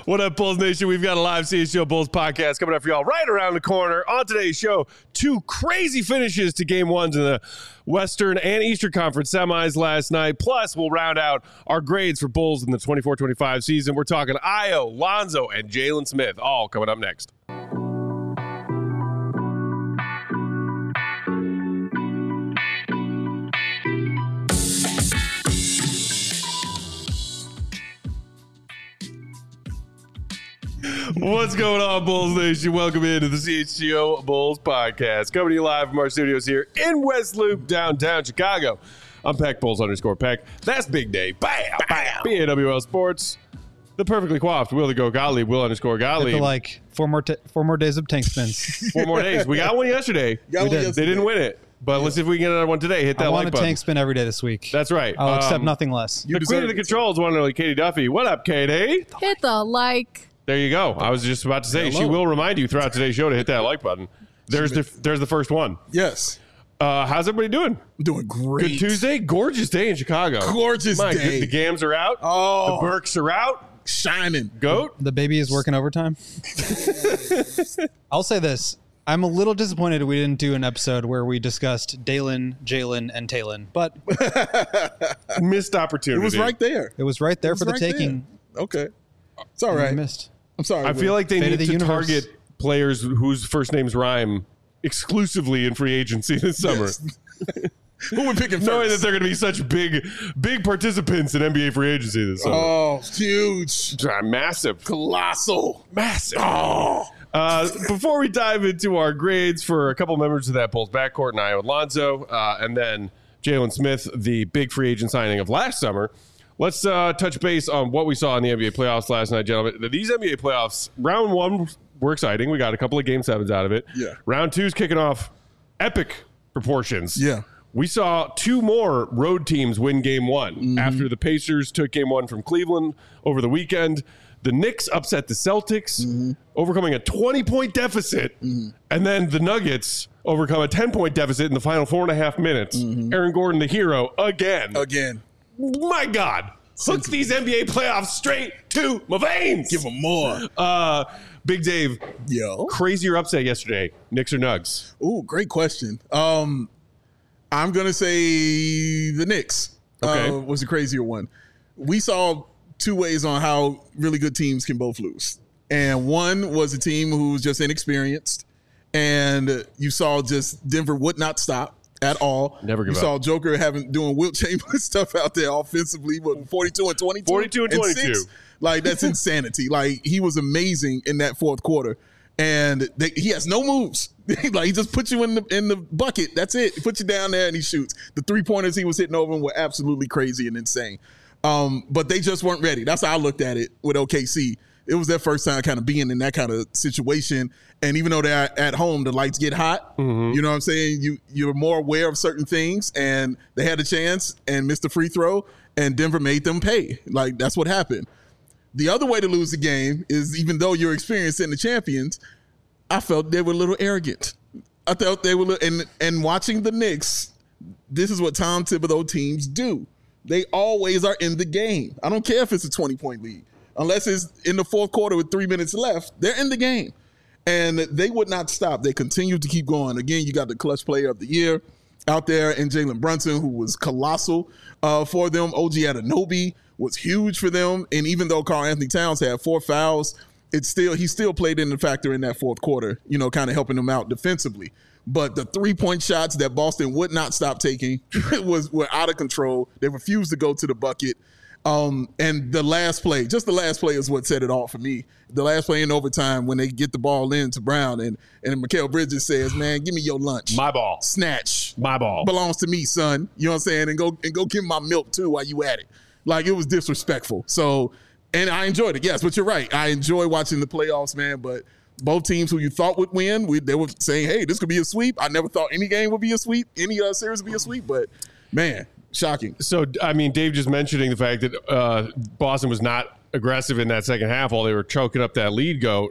What up, Bulls Nation? We've got a live CHGO Bulls podcast coming up for y'all right around the corner. On today's show, two crazy finishes to game ones in the Western and Eastern Conference semis last night. Plus, we'll round out our grades for Bulls in the 24-25 season. We're talking Ayo, Lonzo, and Jalen Smith, all coming up next. What's going on, Bulls Nation? Welcome into the CHGO Bulls podcast. Coming to you live from our studios here in West Loop, downtown Chicago. I'm Peck Bulls_Peck. That's Big Day. Bam! Bam! BAWL Sports. The perfectly coiffed Will the Go Gottlieb. Will_Gottlieb. Like four more days of tank spins. 4 more days. We got one yesterday. They didn't win it. But let's see if we can get another one today. Hit that like button. I want a tank spin every day this week. That's right. I'll accept nothing less. The queen of the controls, one and only Katie Duffy. What up, Katie? Hit the like. There you go. I was just about to say, she will remind you throughout today's show to hit that like button. There's the first one. Yes. How's everybody doing? I'm doing great. Good Tuesday. Gorgeous day in Chicago. Gorgeous day. The Gams are out. Oh. The Burks are out. Shining. Goat. The baby is working overtime. I'll say this. I'm a little disappointed we didn't do an episode where we discussed Dalen, Jalen, and Talon. But missed opportunity. It was right there. It was right there for the taking. There. Okay. It's all right. Missed. I'm sorry. I feel like they need to target players whose first names rhyme exclusively in free agency this summer. Yes. Who would pick him first? Knowing that they're going to be such big participants in NBA free agency this summer. Oh, huge. Massive. Colossal. Massive. Oh. Before we dive into our grades for a couple members of that Bulls backcourt, and Ayo Lonzo, and then Jalen Smith, the big free agent signing of last summer, let's touch base on what we saw in the NBA playoffs last night, gentlemen. These NBA playoffs, round one were exciting. We got a couple of game sevens out of it. Yeah. Round two's kicking off epic proportions. Yeah. We saw two more road teams win game one after the Pacers took game one from Cleveland over the weekend. The Knicks upset the Celtics, overcoming a 20-point deficit, and then the Nuggets overcome a 10-point deficit in the final 4.5 minutes. Aaron Gordon, the hero, again. My God. Hook these NBA playoffs straight to my veins. Give them more. Big Dave. Yo. Crazier upset yesterday. Knicks or Nugs? Ooh, great question. I'm going to say the Knicks was the crazier one. We saw two ways on how really good teams can both lose. And one was a team who was just inexperienced. And you saw just Denver would not stop at all. Never give up. You saw Joker doing Wilt Chamberlain stuff out there offensively, 42 and 22? 42 and 22. 6? Like, that's insanity. Like, he was amazing in that fourth quarter. And he has no moves. Like, he just puts you in the bucket. That's it. He puts you down there and he shoots. The three-pointers he was hitting over him were absolutely crazy and insane. But they just weren't ready. That's how I looked at it with OKC. It was their first time kind of being in that kind of situation. And even though they're at home, the lights get hot. You know what I'm saying? You're more aware of certain things. And they had a chance and missed the free throw. And Denver made them pay. Like, that's what happened. The other way to lose the game is, even though you're experienced in the champions, I felt they were a little arrogant. I felt they were, and watching the Knicks, this is what Tom Thibodeau teams do. They always are in the game. I don't care if it's a 20-point lead. Unless it's in the fourth quarter with 3 minutes left, they're in the game. And they would not stop. They continued to keep going. Again, you got the clutch player of the year out there in Jalen Brunson, who was colossal for them. OG Anunoby was huge for them. And even though Karl Anthony Towns had 4 fouls, he still played in the factor in that fourth quarter, kind of helping them out defensively. But the 3-point shots that Boston would not stop taking were out of control. They refused to go to the bucket. And the last play is what set it off for me. The last play in overtime, when they get the ball in to Brown and Mikal Bridges says, "Man, give me your lunch. My ball. Snatch. My ball. Belongs to me, son." You know what I'm saying? And go give me my milk too while you at it. Like, it was disrespectful. So, and I enjoyed it. Yes, but you're right. I enjoy watching the playoffs, man. But both teams who you thought would win, they were saying, "Hey, this could be a sweep." I never thought any game would be a sweep, any series would be a sweep. But man, shocking. So, I mean, Dave just mentioning the fact that Boston was not aggressive in that second half while they were choking up that lead goat.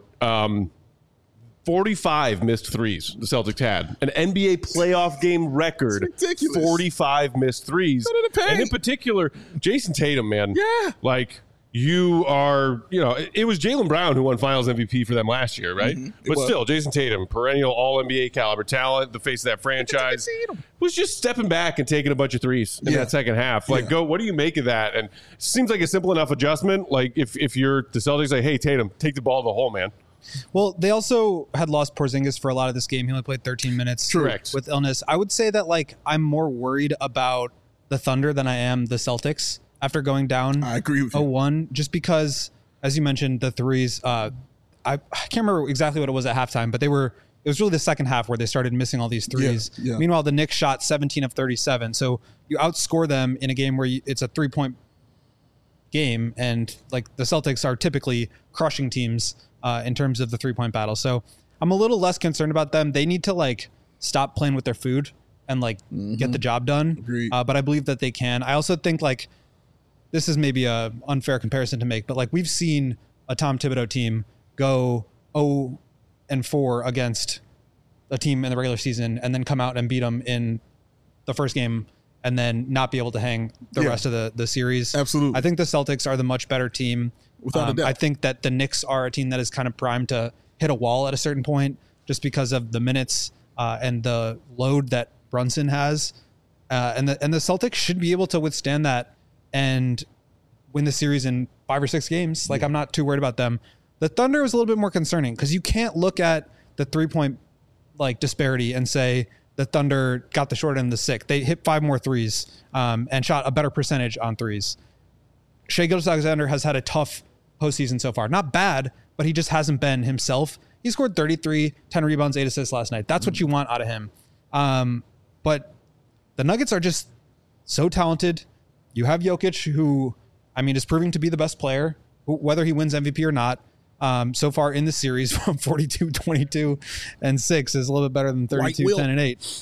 45 missed threes the Celtics had. An NBA playoff game record. It's ridiculous. 45 missed threes. And in particular, Jason Tatum, man. Yeah. Like, you are, it was Jaylen Brown who won Finals MVP for them last year, right? But still, Jason Tatum, perennial All-NBA caliber talent, the face of that franchise, was just stepping back and taking a bunch of threes in that second half. Like, what do you make of that? And it seems like a simple enough adjustment. Like, if you're the Celtics, like, hey, Tatum, take the ball to the hole, man. Well, they also had lost Porzingis for a lot of this game. He only played 13 minutes with illness. I would say that, like, I'm more worried about the Thunder than I am the Celtics after going down I agree with you. 0-1, just because, as you mentioned, the threes, I can't remember exactly what it was at halftime, but it was really the second half where they started missing all these threes. Yeah. Meanwhile, the Knicks shot 17 of 37. So you outscore them in a game where it's a 3-point game, and like the Celtics are typically crushing teams in terms of the 3-point battle. So I'm a little less concerned about them. They need to like stop playing with their food and like get the job done. But I believe that they can. I also think like this is maybe a unfair comparison to make, but like we've seen a Tom Thibodeau team go 0-4 against a team in the regular season and then come out and beat them in the first game and then not be able to hang the rest of the series. Absolutely. I think the Celtics are the much better team. Without a doubt. I think that the Knicks are a team that is kind of primed to hit a wall at a certain point just because of the minutes and the load that Brunson has. And the Celtics should be able to withstand that and win the series in 5 or 6 games. Like, I'm not too worried about them. The Thunder is a little bit more concerning because you can't look at the 3-point like disparity and say the Thunder got the short end of the stick. They hit 5 more threes and shot a better percentage on threes. Shai Gilgeous-Alexander has had a tough postseason so far. Not bad, but he just hasn't been himself. He scored 33, 10 rebounds, 8 assists last night. That's what you want out of him. But the Nuggets are just so talented. You have Jokic, who, I mean, is proving to be the best player, whether he wins MVP or not. So far in the series, from 42, 22, and 6 is a little bit better than 32, 10, and 8.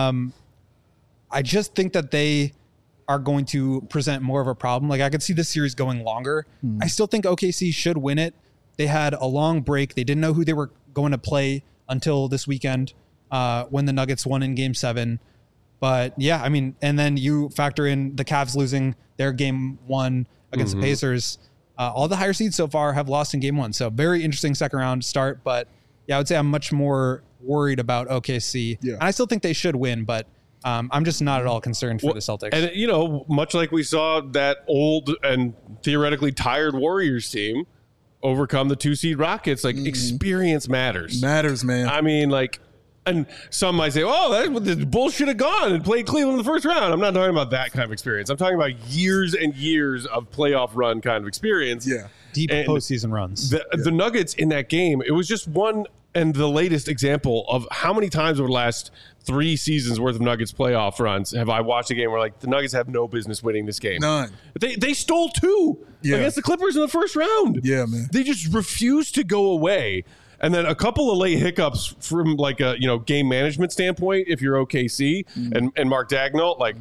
I just think that they are going to present more of a problem. Like, I could see this series going longer. I still think OKC should win it. They had a long break. They didn't know who they were going to play until this weekend when the Nuggets won in Game 7. But yeah, I mean, and then you factor in the Cavs losing their Game 1 against the Pacers. All the higher seeds so far have lost in Game 1. So very interesting second round start. But yeah, I would say I'm much more worried about OKC. Yeah. And I still think they should win, but I'm just not at all concerned for the Celtics. And, much like we saw that old and theoretically tired Warriors team overcome the 2-seed Rockets, like experience matters. Matters, man. I mean, like, and some might say, the Bulls should have gone and played Cleveland in the first round. I'm not talking about that kind of experience. I'm talking about years and years of playoff run kind of experience. Yeah. Deep postseason runs. The Nuggets in that game, it was just one and the latest example of how many times over the last 3 seasons worth of Nuggets playoff runs have I watched a game where like the Nuggets have no business winning this game. None. They stole 2 against the Clippers in the first round. Yeah, man. They just refused to go away. And then a couple of late hiccups from like a game management standpoint, if you're OKC and Mark Daigneault, like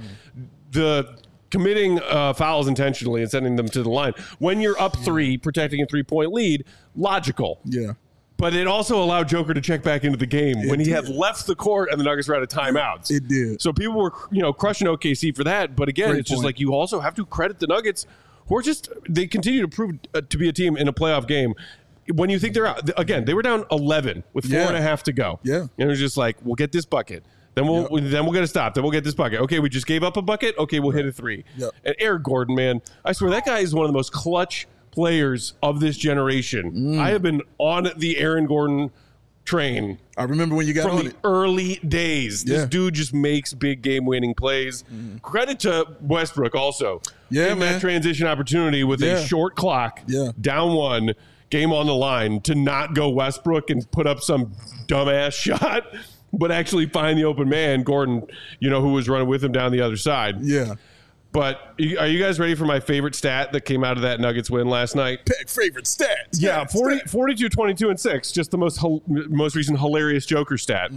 the committing fouls intentionally and sending them to the line. When you're up 3, protecting a 3-point lead, logical. Yeah. But it also allowed Joker to check back into the game when he had left the court and the Nuggets were out of timeouts. It did. So people were crushing OKC for that. But again, it's just like you also have to credit the Nuggets, who are they continue to prove to be a team in a playoff game. When you think they're out, again, they were down 11 with 4.5 to go. Yeah. And it was just like, we'll get this bucket. Then we'll get a stop. Then we'll get this bucket. Okay, we just gave up a bucket. Okay, we'll hit a 3. Yep. And Eric Gordon, man, I swear that guy is one of the most clutch players of this generation. I have been on the Aaron Gordon train. I remember when you got from on the it. early days. This dude just makes big game winning plays. Credit to Westbrook also. Yeah, in man. that transition opportunity with a short clock, down 1. Game on the line to not go Westbrook and put up some dumbass shot, but actually find the open man, Gordon, who was running with him down the other side. Yeah. But are you guys ready for my favorite stat that came out of that Nuggets win last night? Pick favorite stats. Yeah, 42, 22, and 6. Just the most recent hilarious Joker stat.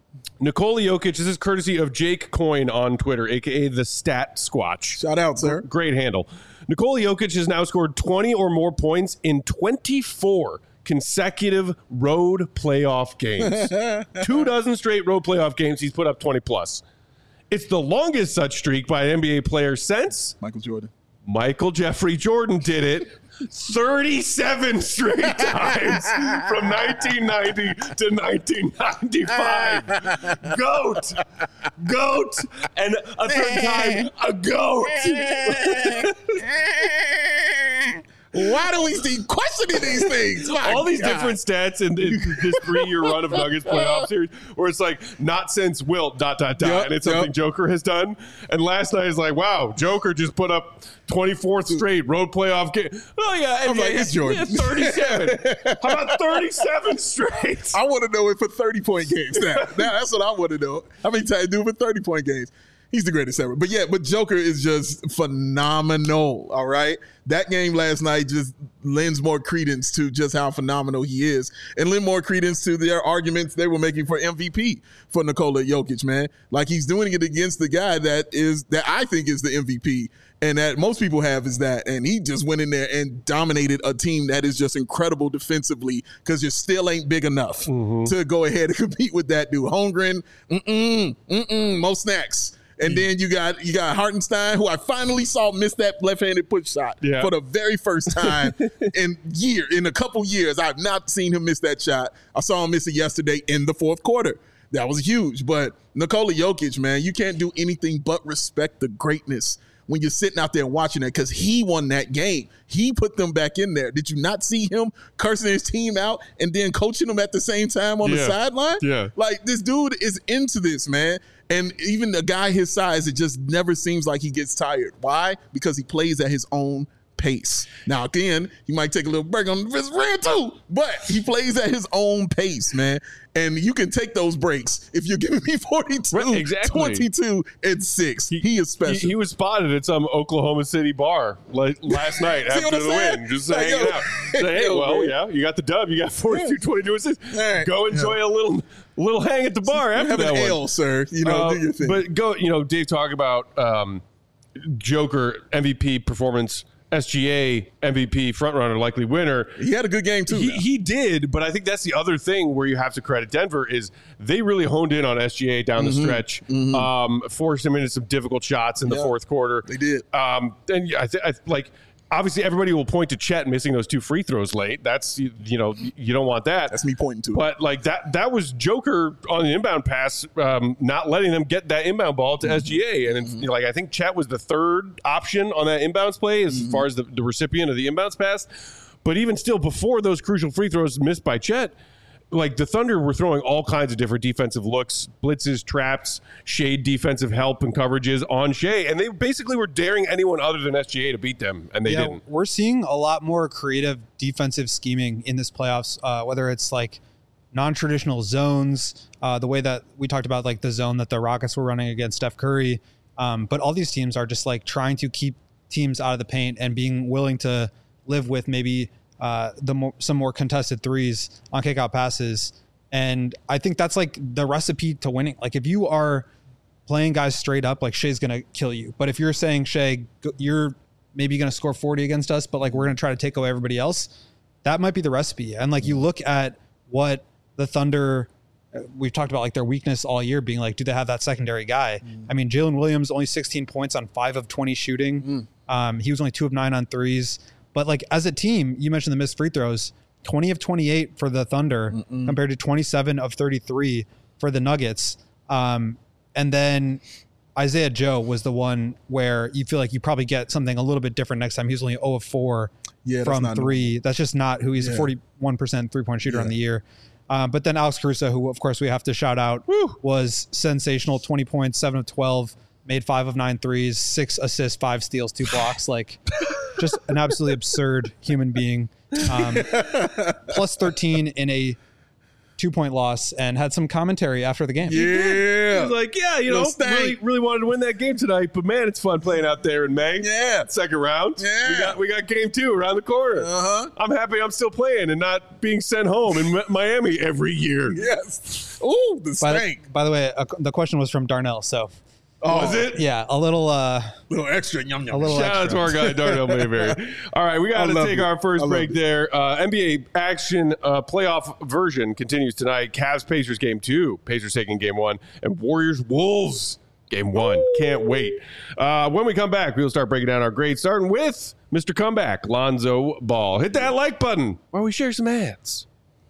Nikola Jokic, this is courtesy of Jake Coyne on Twitter, a.k.a. the Stat Squatch. Shout out, sir. Great handle. Nikola Jokic has now scored 20 or more points in 24 consecutive road playoff games. 24 straight road playoff games, he's put up 20+. It's the longest such streak by an NBA player since Michael Jordan. Michael Jeffrey Jordan did it 37 straight times from 1990 to 1995. Goat. And a third time, a goat. Why do we keep questioning these things? All these different stats in this 3-year run of Nuggets playoff series where it's like, not since Wilt, ... and it's something Joker has done. And last night is like, wow, Joker just put up 24th straight road playoff game. Oh, yeah. I'm like, it's Jordan. 37. How about 37 straight? I want to know it for 30-point games now. That's what I want to know. How many times do it for 30-point games? He's the greatest ever. But Joker is just phenomenal, all right? That game last night just lends more credence to just how phenomenal he is and lend more credence to their arguments they were making for MVP for Nikola Jokic, man. Like, he's doing it against the guy that I think is the MVP and that most people have is that. And he just went in there and dominated a team that is just incredible defensively because you still ain't big enough to go ahead and compete with that dude. Holmgren, Mo Snacks. And then you got Hartenstein, who I finally saw miss that left-handed push shot for the very first time in a couple years. I've not seen him miss that shot. I saw him miss it yesterday in the fourth quarter. That was huge. But Nikola Jokic, man, you can't do anything but respect the greatness when you're sitting out there and watching it because he won that game. He put them back in there. Did you not see him cursing his team out and then coaching them at the same time on the sideline? Yeah. Like, this dude is into this, man. And even a guy his size, it just never seems like he gets tired. Why? Because he plays at his own pace. Now, again, he might take a little break on his rant too, but he plays at his own pace, man. And you can take those breaks if you're giving me 42, 22, and 6. He is special. He was spotted at some Oklahoma City bar like last night after the win, just hanging out. Say, hey, you got the dub. You got 42, 22, and 6. Right. Go enjoy a little hang at the bar after that one. Ale, sir. Do your thing. But Dave, talk about Joker MVP performance. SGA MVP frontrunner, likely winner. He had a good game too. He did, but I think that's the other thing where you have to credit Denver is they really honed in on SGA down the stretch, forced him into some difficult shots in the fourth quarter. They did. And I obviously everybody will point to Chet missing those 2 free throws late. That's you don't want that. That's me pointing to it. But like that was Joker on the inbound pass, not letting them get that inbound ball to SGA. And I think Chet was the third option on that inbounds play as far as the recipient of the inbounds pass. But even still, before those crucial free throws missed by Chet, like the Thunder were throwing all kinds of different defensive looks, blitzes, traps, shade defensive help and coverages on Shea. And they basically were daring anyone other than SGA to beat them, and they didn't. We're seeing a lot more creative defensive scheming in this playoffs, whether it's like non-traditional zones, the way that we talked about, like the zone that the Rockets were running against Steph Curry. But all these teams are just like trying to keep teams out of the paint and being willing to live with maybe some more contested threes on kickout passes. And I think that's like the recipe to winning. Like if you are playing guys straight up, like Shea's going to kill you. But if you're saying, Shea, you're maybe going to score 40 against us, but like we're going to try to take away everybody else, that might be the recipe. And like you look at what the Thunder, we've talked about like their weakness all year being like, do they have that secondary guy? I mean, Jalen Williams only 16 points on 5 of 20 shooting. He was only 2 of 9 on threes. But like as a team, you mentioned the missed free throws, 20 of 28 for the Thunder compared to 27 of 33 for the Nuggets. And then Isaiah Joe was the one where you feel like you probably get something a little bit different next time. He was only 0 of 4 from 3. That's just not who he's a 41% 3-point shooter on the year. But then Alex Caruso, who of course we have to shout out, was sensational. 20 points, 7 of 12, made 5 of 9 threes, 6 assists, 5 steals, 2 blocks. Like just an absolutely absurd human being. Plus 13 in a 2-point loss, and had some commentary after the game. He was like, really wanted to win that game tonight, but man, it's fun playing out there in May. Second round. We got game 2 around the corner. I'm happy I'm still playing and not being sent home in Miami every year. Ooh, the stank. By the way, the question was from Darnell, so. Was it? Yeah, a little extra yum yum. A little Shout out to our guy Darnell Mayberry. All right, we got to take our first break there. NBA action playoff version continues tonight. Cavs-Pacers game 2. Pacers taking game 1. And Warriors-Wolves game 1. Can't wait. When we come back, we'll start breaking down our grades, starting with Mr. Comeback, Lonzo Ball. Hit that like button while we share some ads.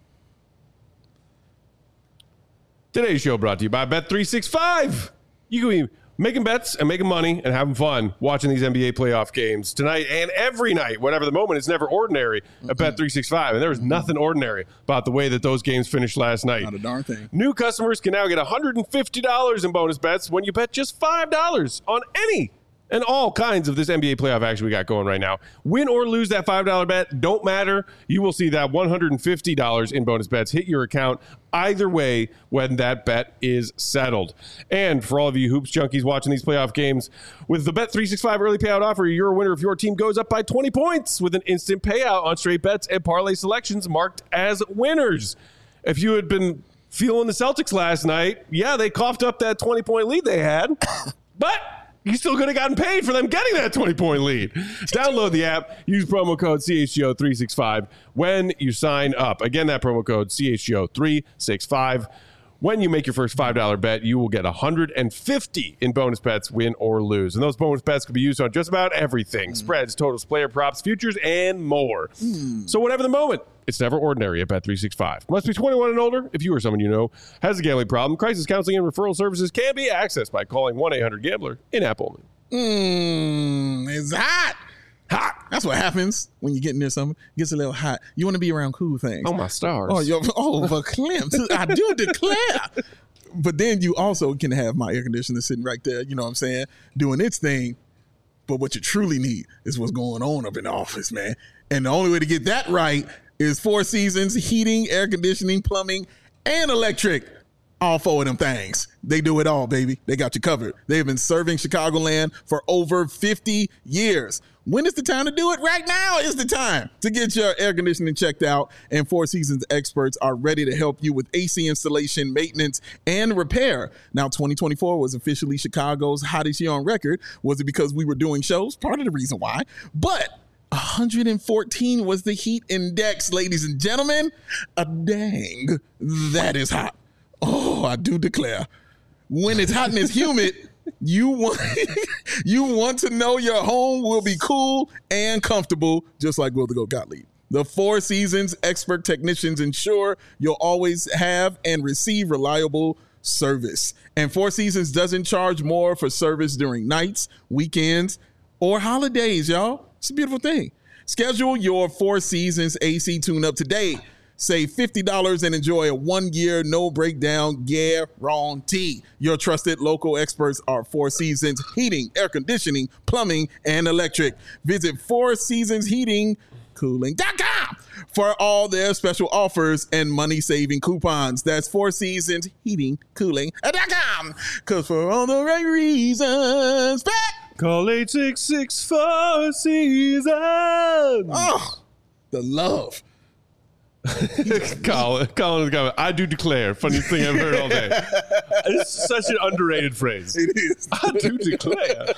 Today's show brought to you by Bet365. You can be making bets and making money and having fun watching these NBA playoff games tonight and every night, whatever the moment. It's never ordinary at Bet365. And there was nothing ordinary about the way that those games finished last night. Not a darn thing. New customers can now get $150 in bonus bets when you bet just $5 on any and all kinds of this NBA playoff action we got going right now. Win or lose that $5 bet, don't matter. You will see that $150 in bonus bets hit your account either way when that bet is settled. And for all of you hoops junkies watching these playoff games, with the Bet365 early payout offer, you're a winner if your team goes up by 20 points with an instant payout on straight bets and parlay selections marked as winners. If you had been feeling the Celtics last night, yeah, they coughed up that 20-point lead they had, but you still could have gotten paid for them getting that 20-point lead. Download the app. Use promo code CHGO365 when you sign up. Again, that promo code CHGO365. When you make your first $5 bet, you will get $150 in bonus bets, win or lose. And those bonus bets can be used on just about everything. Spreads, totals, player props, futures, and more. So whatever the moment, it's never ordinary at Bet365. Must be 21 and older. If you or someone you know has a gambling problem, crisis counseling and referral services can be accessed by calling 1-800-GAMBLER in-app only. It's hot. Hot. That's what happens when you get near something. It gets a little hot. You want to be around cool things. Oh, my stars. But Clem, I do declare. But then you also can have my air conditioner sitting right there, you know what I'm saying, doing its thing. But what you truly need is what's going on up in the office, man. And the only way to get that right is Four Seasons Heating, Air Conditioning, Plumbing, and Electric. All four of them things. They do it all, baby. They got you covered. They've been serving Chicagoland for over 50 years. When is the time to do it? Right now is the time to get your air conditioning checked out. And Four Seasons experts are ready to help you with AC installation, maintenance, and repair. Now, 2024 was officially Chicago's hottest year on record. Was it because we were doing shows? Part of the reason why. But 114 was the heat index, ladies and gentlemen. A dang, that is hot. Oh, I do declare. When it's hot and it's humid, you want to know your home will be cool and comfortable, just like Will the Goat Gottlieb. The Four Seasons expert technicians ensure you'll always have and receive reliable service. And Four Seasons doesn't charge more for service during nights, weekends, or holidays, y'all. It's a beautiful thing. Schedule your Four Seasons AC tune-up today. Save $50 and enjoy a 1-year no breakdown guarantee. Your trusted local experts are Four Seasons Heating, Air Conditioning, Plumbing, and Electric. Visit fourseasonsheatingcooling.com for all their special offers and money-saving coupons. That's Four Seasons Heating Cooling.com. Because for all the right reasons, call 866 Four Seasons. Oh, the love. Colin, I do declare. Funniest thing I've heard all day. It's such an underrated phrase. It is. I do declare.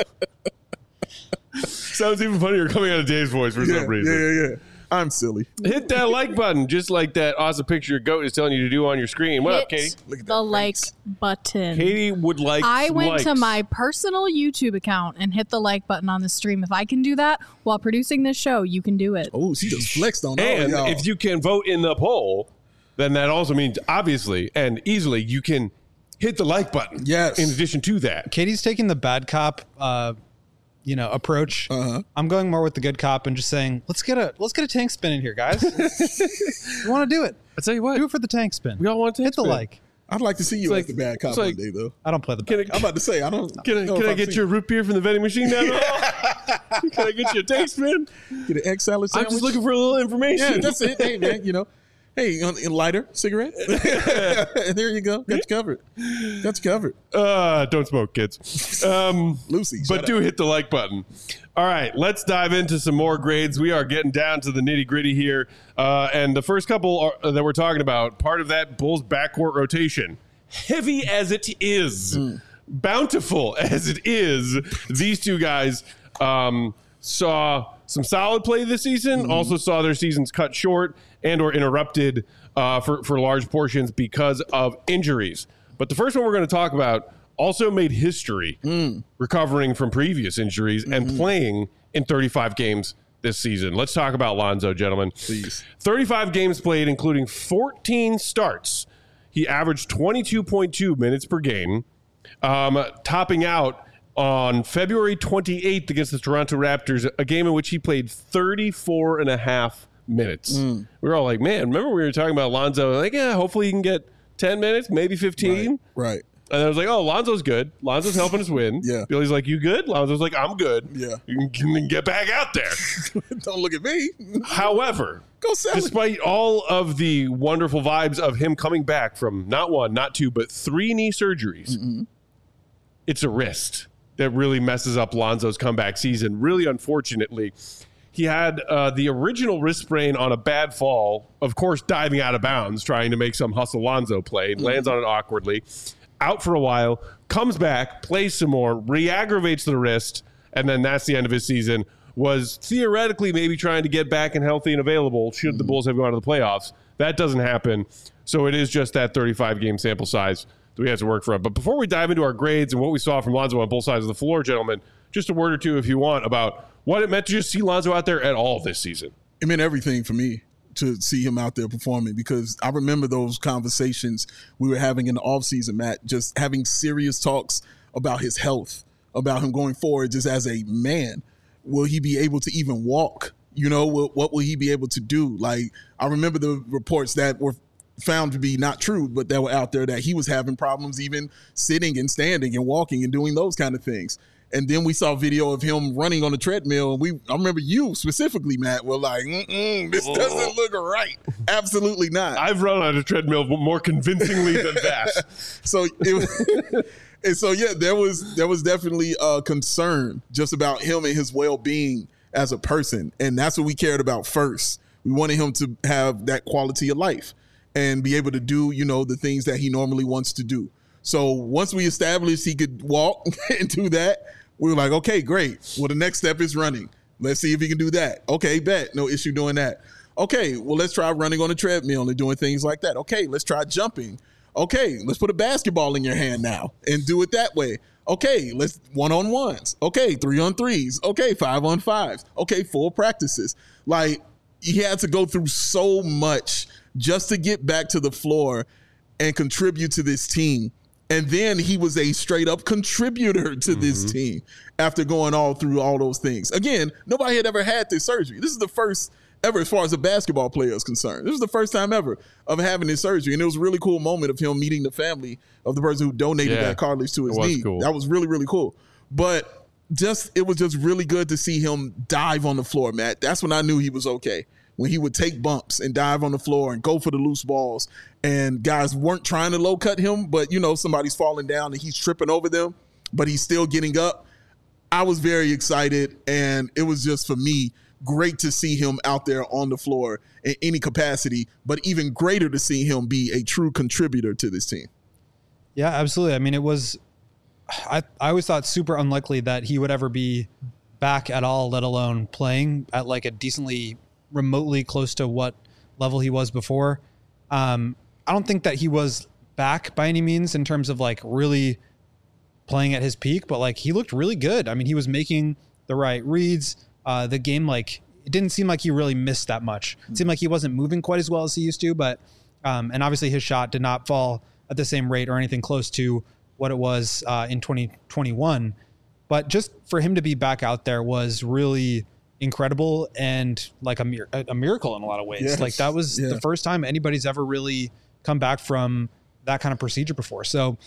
Sounds even funnier coming out of Dave's voice for some reason. Yeah. I'm silly. Hit that like button, just like that awesome picture your goat is telling you to do on your screen. What up, Katie? Look at the like button. Katie would like I some went likes. to my personal YouTube account and hit the like button on the stream. If I can do that while producing this show, you can do it. Oh, she just flexed on all And y'all. if you can vote in the poll, then that also means obviously and easily you can hit the like button. Yes. In addition to that. Katie's taking the bad cop, approach. I'm going more with the good cop and just saying, let's get a tank spin in here, guys. You want to do it? I tell you what. Do it for the tank spin. We all want to hit the like. I'd like to see you like- as the bad cop it's one like- day, though. I don't play the Can bad I- cop. I'm about to say, I don't. Can I get you a root beer from the vending machine down there? Can I get you a tank spin? Get an egg salad I'm sandwich? just looking for a little information. Yeah, that's it. Hey, man, Hey, lighter, cigarette. There you go. Got you covered. Don't smoke, kids. Lucy, But shut do up. hit the like button. All right, let's dive into some more grades. We are getting down to the nitty gritty here. And the first couple that we're talking about, part of that Bulls backcourt rotation, heavy as it is, bountiful as it is, these two guys saw some solid play this season, also saw their seasons cut short and or interrupted for large portions because of injuries. But the first one we're going to talk about also made history recovering from previous injuries and playing in 35 games this season. Let's talk about Lonzo, gentlemen. Please. 35 games played, including 14 starts. He averaged 22.2 minutes per game, topping out on February 28th against the Toronto Raptors, a game in which he played 34 and a half minutes. We were all like, man, remember we were talking about Lonzo? Like, yeah, hopefully he can get 10 minutes, maybe 15. Right. And I was like, oh, Lonzo's good. Lonzo's helping us win. Yeah. Billy's like, you good? Lonzo's like, I'm good. Yeah. You can get back out there. Don't look at me. However, Go sell it. despite all of the wonderful vibes of him coming back from not one, not two, but 3 knee surgeries, it's a wrist that really messes up Lonzo's comeback season. Really, unfortunately, he had the original wrist sprain on a bad fall, of course, diving out of bounds, trying to make some hustle Lonzo play, lands on it awkwardly, out for a while, comes back, plays some more, re-aggravates the wrist, and then that's the end of his season. Was theoretically maybe trying to get back and healthy and available should the Bulls have gone to the playoffs. That doesn't happen. So it is just that 35-game sample size that we have to work from. But before we dive into our grades and what we saw from Lonzo on both sides of the floor, gentlemen, just a word or two, if you want, about what it meant to just see Lonzo out there at all this season. It meant everything for me to see him out there performing, because I remember those conversations we were having in the offseason, Matt, just having serious talks about his health, about him going forward just as a man. Will he be able to even walk? You know, what will he be able to do? Like, I remember the reports that were found to be not true, but that were out there, that he was having problems even sitting and standing and walking and doing those kind of things. And then we saw video of him running on the treadmill. And I remember you specifically, Matt, were like, this doesn't look right. Absolutely not. I've run on a treadmill more convincingly than that. So it was, and so, yeah, there was definitely a concern just about him and his well-being as a person. And that's what we cared about first. We wanted him to have that quality of life and be able to do, you know, the things that he normally wants to do. So once we established he could walk and do that, we were like, okay, great. Well, the next step is running. Let's see if he can do that. Okay, bet. No issue doing that. Okay, well, let's try running on a treadmill and doing things like that. Okay, let's try jumping. Okay, let's put a basketball in your hand now and do it that way. Okay, let's 1-on-1s. Okay, 3-on-3s. Okay, 5-on-5s. Okay, full practices. Like, he had to go through so much just to get back to the floor and contribute to this team. And then he was a straight up contributor to this team after going all through all those things. Again, nobody had ever had this surgery. This is the first ever as far as a basketball player is concerned. This was the first time ever of having this surgery. And it was a really cool moment of him meeting the family of the person who donated that cartilage to his knee. Cool. That was really, really cool. But it was just really good to see him dive on the floor, Matt. That's when I knew he was okay. When he would take bumps and dive on the floor and go for the loose balls, and guys weren't trying to low cut him, but, you know, somebody's falling down and he's tripping over them, but he's still getting up. I was very excited, and it was just, for me, great to see him out there on the floor in any capacity, but even greater to see him be a true contributor to this team. Yeah, absolutely. I mean, it was, I always thought super unlikely that he would ever be back at all, let alone playing at like a decently remotely close to what level he was before. I don't think that he was back by any means in terms of like really playing at his peak, but like he looked really good. I mean, he was making the right reads. The game, like, it didn't seem like he really missed that much. It seemed like he wasn't moving quite as well as he used to, but and obviously his shot did not fall at the same rate or anything close to what it was in 2021. But just for him to be back out there was really incredible and like a miracle in a lot of ways. Yes. Like that was the first time anybody's ever really come back from that kind of procedure before. So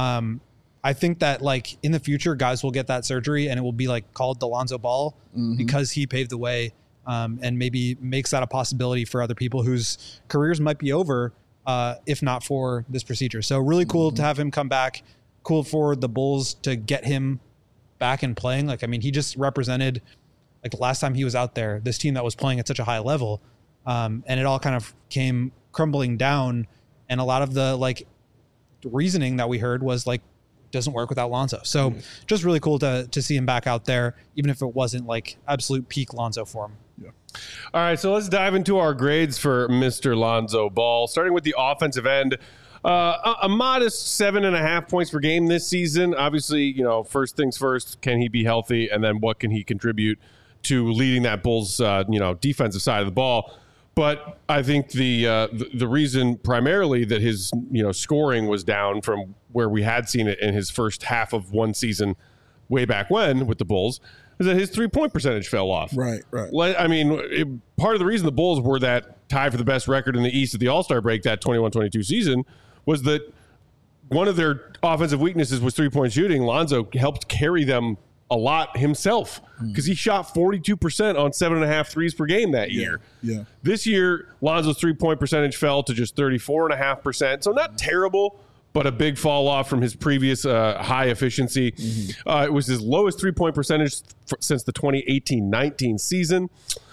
I think that like in the future, guys will get that surgery and it will be like called the Lonzo Ball because he paved the way and maybe makes that a possibility for other people whose careers might be over if not for this procedure. So really cool to have him come back. Cool for the Bulls to get him back and playing. Like, I mean, he just represented, like the last time he was out there, this team that was playing at such a high level, and it all kind of came crumbling down. And a lot of the like reasoning that we heard was like, doesn't work without Lonzo. So just really cool to see him back out there, even if it wasn't like absolute peak Lonzo for him. Yeah. All right, so let's dive into our grades for Mr. Lonzo Ball, starting with the offensive end. A modest 7.5 points per game this season. Obviously, first things first, can he be healthy? And then what can he contribute to leading that Bulls, defensive side of the ball? But I think the reason primarily that his, scoring was down from where we had seen it in his first half of one season way back when with the Bulls is that his 3-point percentage fell off. Right. I mean, part of the reason the Bulls were that tied for the best record in the East at the All-Star break that 21-22 season was that one of their offensive weaknesses was 3-point shooting. Lonzo helped carry them a lot himself because he shot 42% on 7.5 threes per game that year. Yeah. This year, Lonzo's 3-point percentage fell to just 34.5%. So not terrible, but a big fall off from his previous high efficiency. It was his lowest 3-point percentage since the 2018-19 season.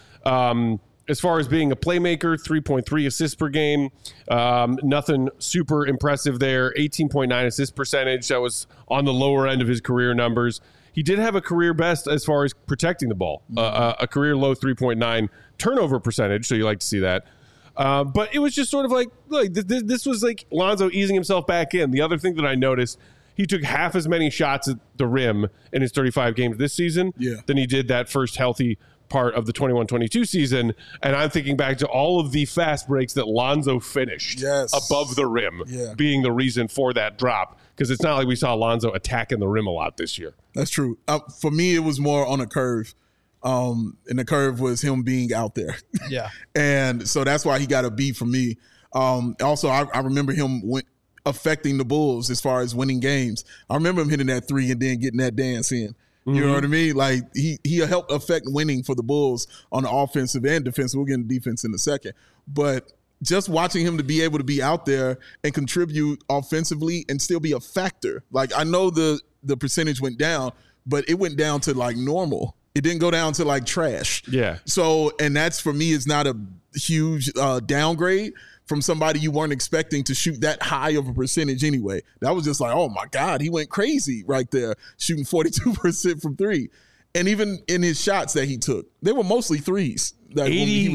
As far as being a playmaker, 3.3 assists per game. Nothing super impressive there. 18.9 assist percentage. That was on the lower end of his career numbers. He did have a career best as far as protecting the ball. A career low 3.9 turnover percentage, so you like to see that. But it was just sort of like this was like Lonzo easing himself back in. The other thing that I noticed, he took half as many shots at the rim in his 35 games this season than he did that first healthy part of the 21-22 season. And I'm thinking back to all of the fast breaks that Lonzo finished above the rim being the reason for that drop. Because it's not like we saw Lonzo attacking the rim a lot this year. That's true. For me, it was more on a curve. And the curve was him being out there. Yeah. And so that's why he got a B from me. Also, I remember him affecting the Bulls as far as winning games. I remember him hitting that three and then getting that dance in. You know what I mean? Like he helped affect winning for the Bulls on the offensive and defense. We'll get into defense in a second. But just watching him to be able to be out there and contribute offensively and still be a factor. Like I know the percentage went down, but it went down to like normal. It didn't go down to like trash. Yeah. So, and that's for me is not a huge downgrade from somebody you weren't expecting to shoot that high of a percentage anyway. That was just like, oh my God, he went crazy right there, shooting 42% from three. And even in his shots that he took, they were mostly threes. Over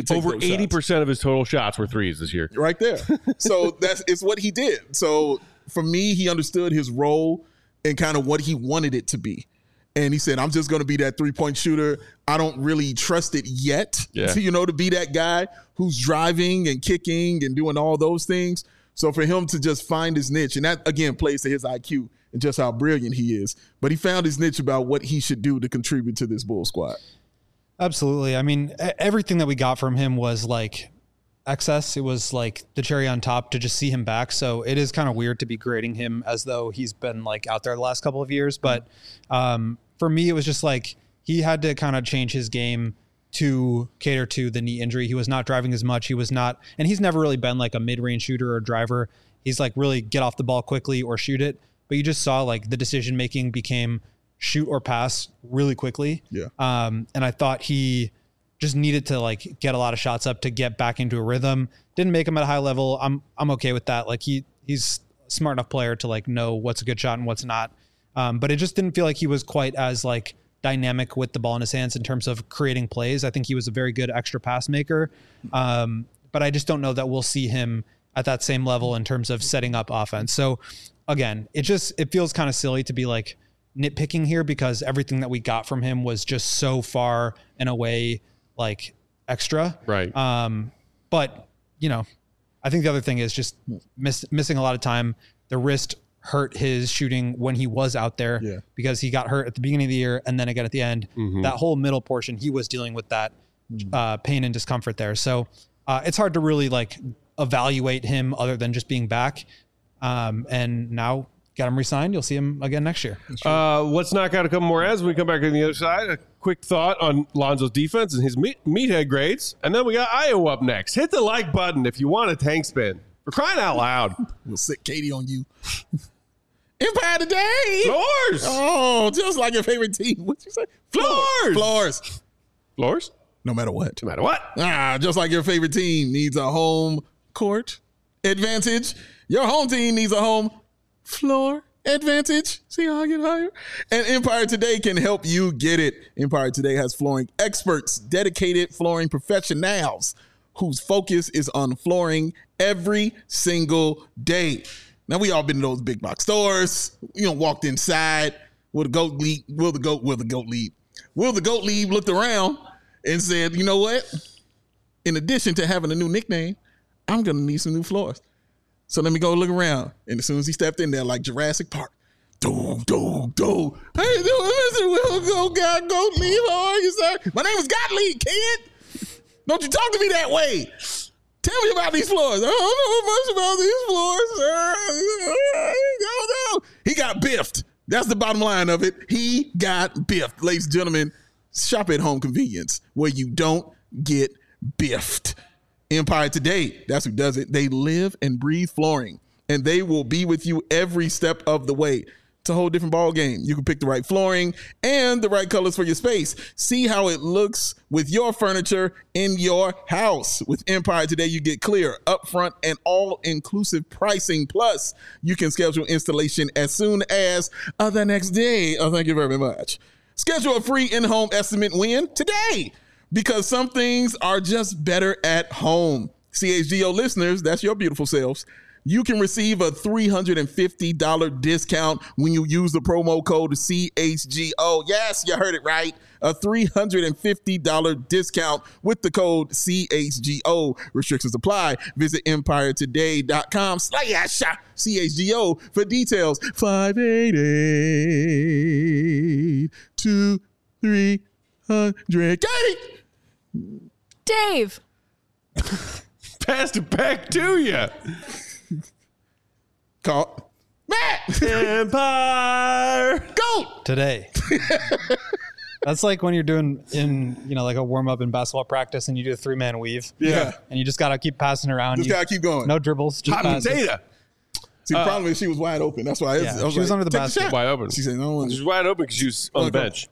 80% of his total shots were threes this year. Right there. So it's what he did. So for me, he understood his role and kind of what he wanted it to be. And he said, I'm just going to be that 3-point shooter. I don't really trust it yet, to be that guy who's driving and kicking and doing all those things. So for him to just find his niche, and that, again, plays to his IQ and just how brilliant he is. But he found his niche about what he should do to contribute to this Bull squad. Absolutely. I mean, everything that we got from him was like excess. It was like the cherry on top to just see him back. So it is kind of weird to be grading him as though he's been like out there the last couple of years. But for me, it was just like he had to kind of change his game to cater to the knee injury. He was not driving as much. He was not, and he's never really been like a mid-range shooter or driver. He's like really get off the ball quickly or shoot it. But you just saw like the decision-making became shoot or pass really quickly. Yeah. And I thought he just needed to like get a lot of shots up to get back into a rhythm. Didn't make him at a high level. I'm okay with that. Like he's a smart enough player to like know what's a good shot and what's not. But it just didn't feel like he was quite as like dynamic with the ball in his hands in terms of creating plays. I think he was a very good extra pass maker. But I just don't know that we'll see him at that same level in terms of setting up offense. So again, it feels kind of silly to be like nitpicking here because everything that we got from him was just so far and away like extra. Right. But I think the other thing is just missing a lot of time. The wrist hurt his shooting when he was out there because he got hurt at the beginning of the year and then again at the end. That whole middle portion, he was dealing with that pain and discomfort there. So it's hard to really like evaluate him other than just being back. And now got him re-signed. You'll see him again next year. Let's knock out a couple more ads when we come back on the other side. A quick thought on Lonzo's defense and his meathead grades. And then we got Iowa up next. Hit the like button if you want a tank spin. We're crying out loud. We'll sit Katie on you. Empire today. Floors. Oh, just like your favorite team. What'd you say? Floors. Floors? No matter what. No matter what. Just like your favorite team needs a home court advantage, your home team needs a home floor advantage. See how I get higher? And Empire Today can help you get it. Empire Today has flooring experts, dedicated flooring professionals whose focus is on flooring every single day. Now we all been to those big box stores. Walked inside. Will the goat lead looked around and said, you know what? In addition to having a new nickname, I'm going to need some new floors. So let me go look around. And as soon as he stepped in there, like Jurassic Park, do. Hey, Mr. Will Gottlieb, how are you, sir? My name is Gottlieb, kid. Don't you talk to me that way. Tell me about these floors. I don't know much about these floors, sir. No. He got biffed. That's the bottom line of it. He got biffed. Ladies and gentlemen, shop at Home Convenience where you don't get biffed. Empire Today, that's who does it. They live and breathe flooring, and they will be with you every step of the way. It's a whole different ball game. You can pick the right flooring and the right colors for your space. See how it looks with your furniture in your house. With Empire Today, you get clear, upfront, and all-inclusive pricing. Plus, you can schedule installation as soon as the next day. Oh, thank you very much. Schedule a free in-home estimate when? Today. Because some things are just better at home. CHGO listeners, that's your beautiful selves. You can receive a $350 discount when you use the promo code CHGO. Yes, you heard it right. A $350 discount with the code CHGO. Restrictions apply. Visit EmpireToday.com/CHGO for details. 588-2300. Katie! Dave. Passed it back to you. Call Matt. Empire. Go. Today. That's like when you're doing like a warm up in basketball practice and you do a 3-man weave. Yeah. And you just got to keep passing around. Just got to keep going. No dribbles. Just Hot passes. potato. See, the problem is she was wide open. That's why She was under the basket. Wide open. She said, no. She's wide open because she was on the bench.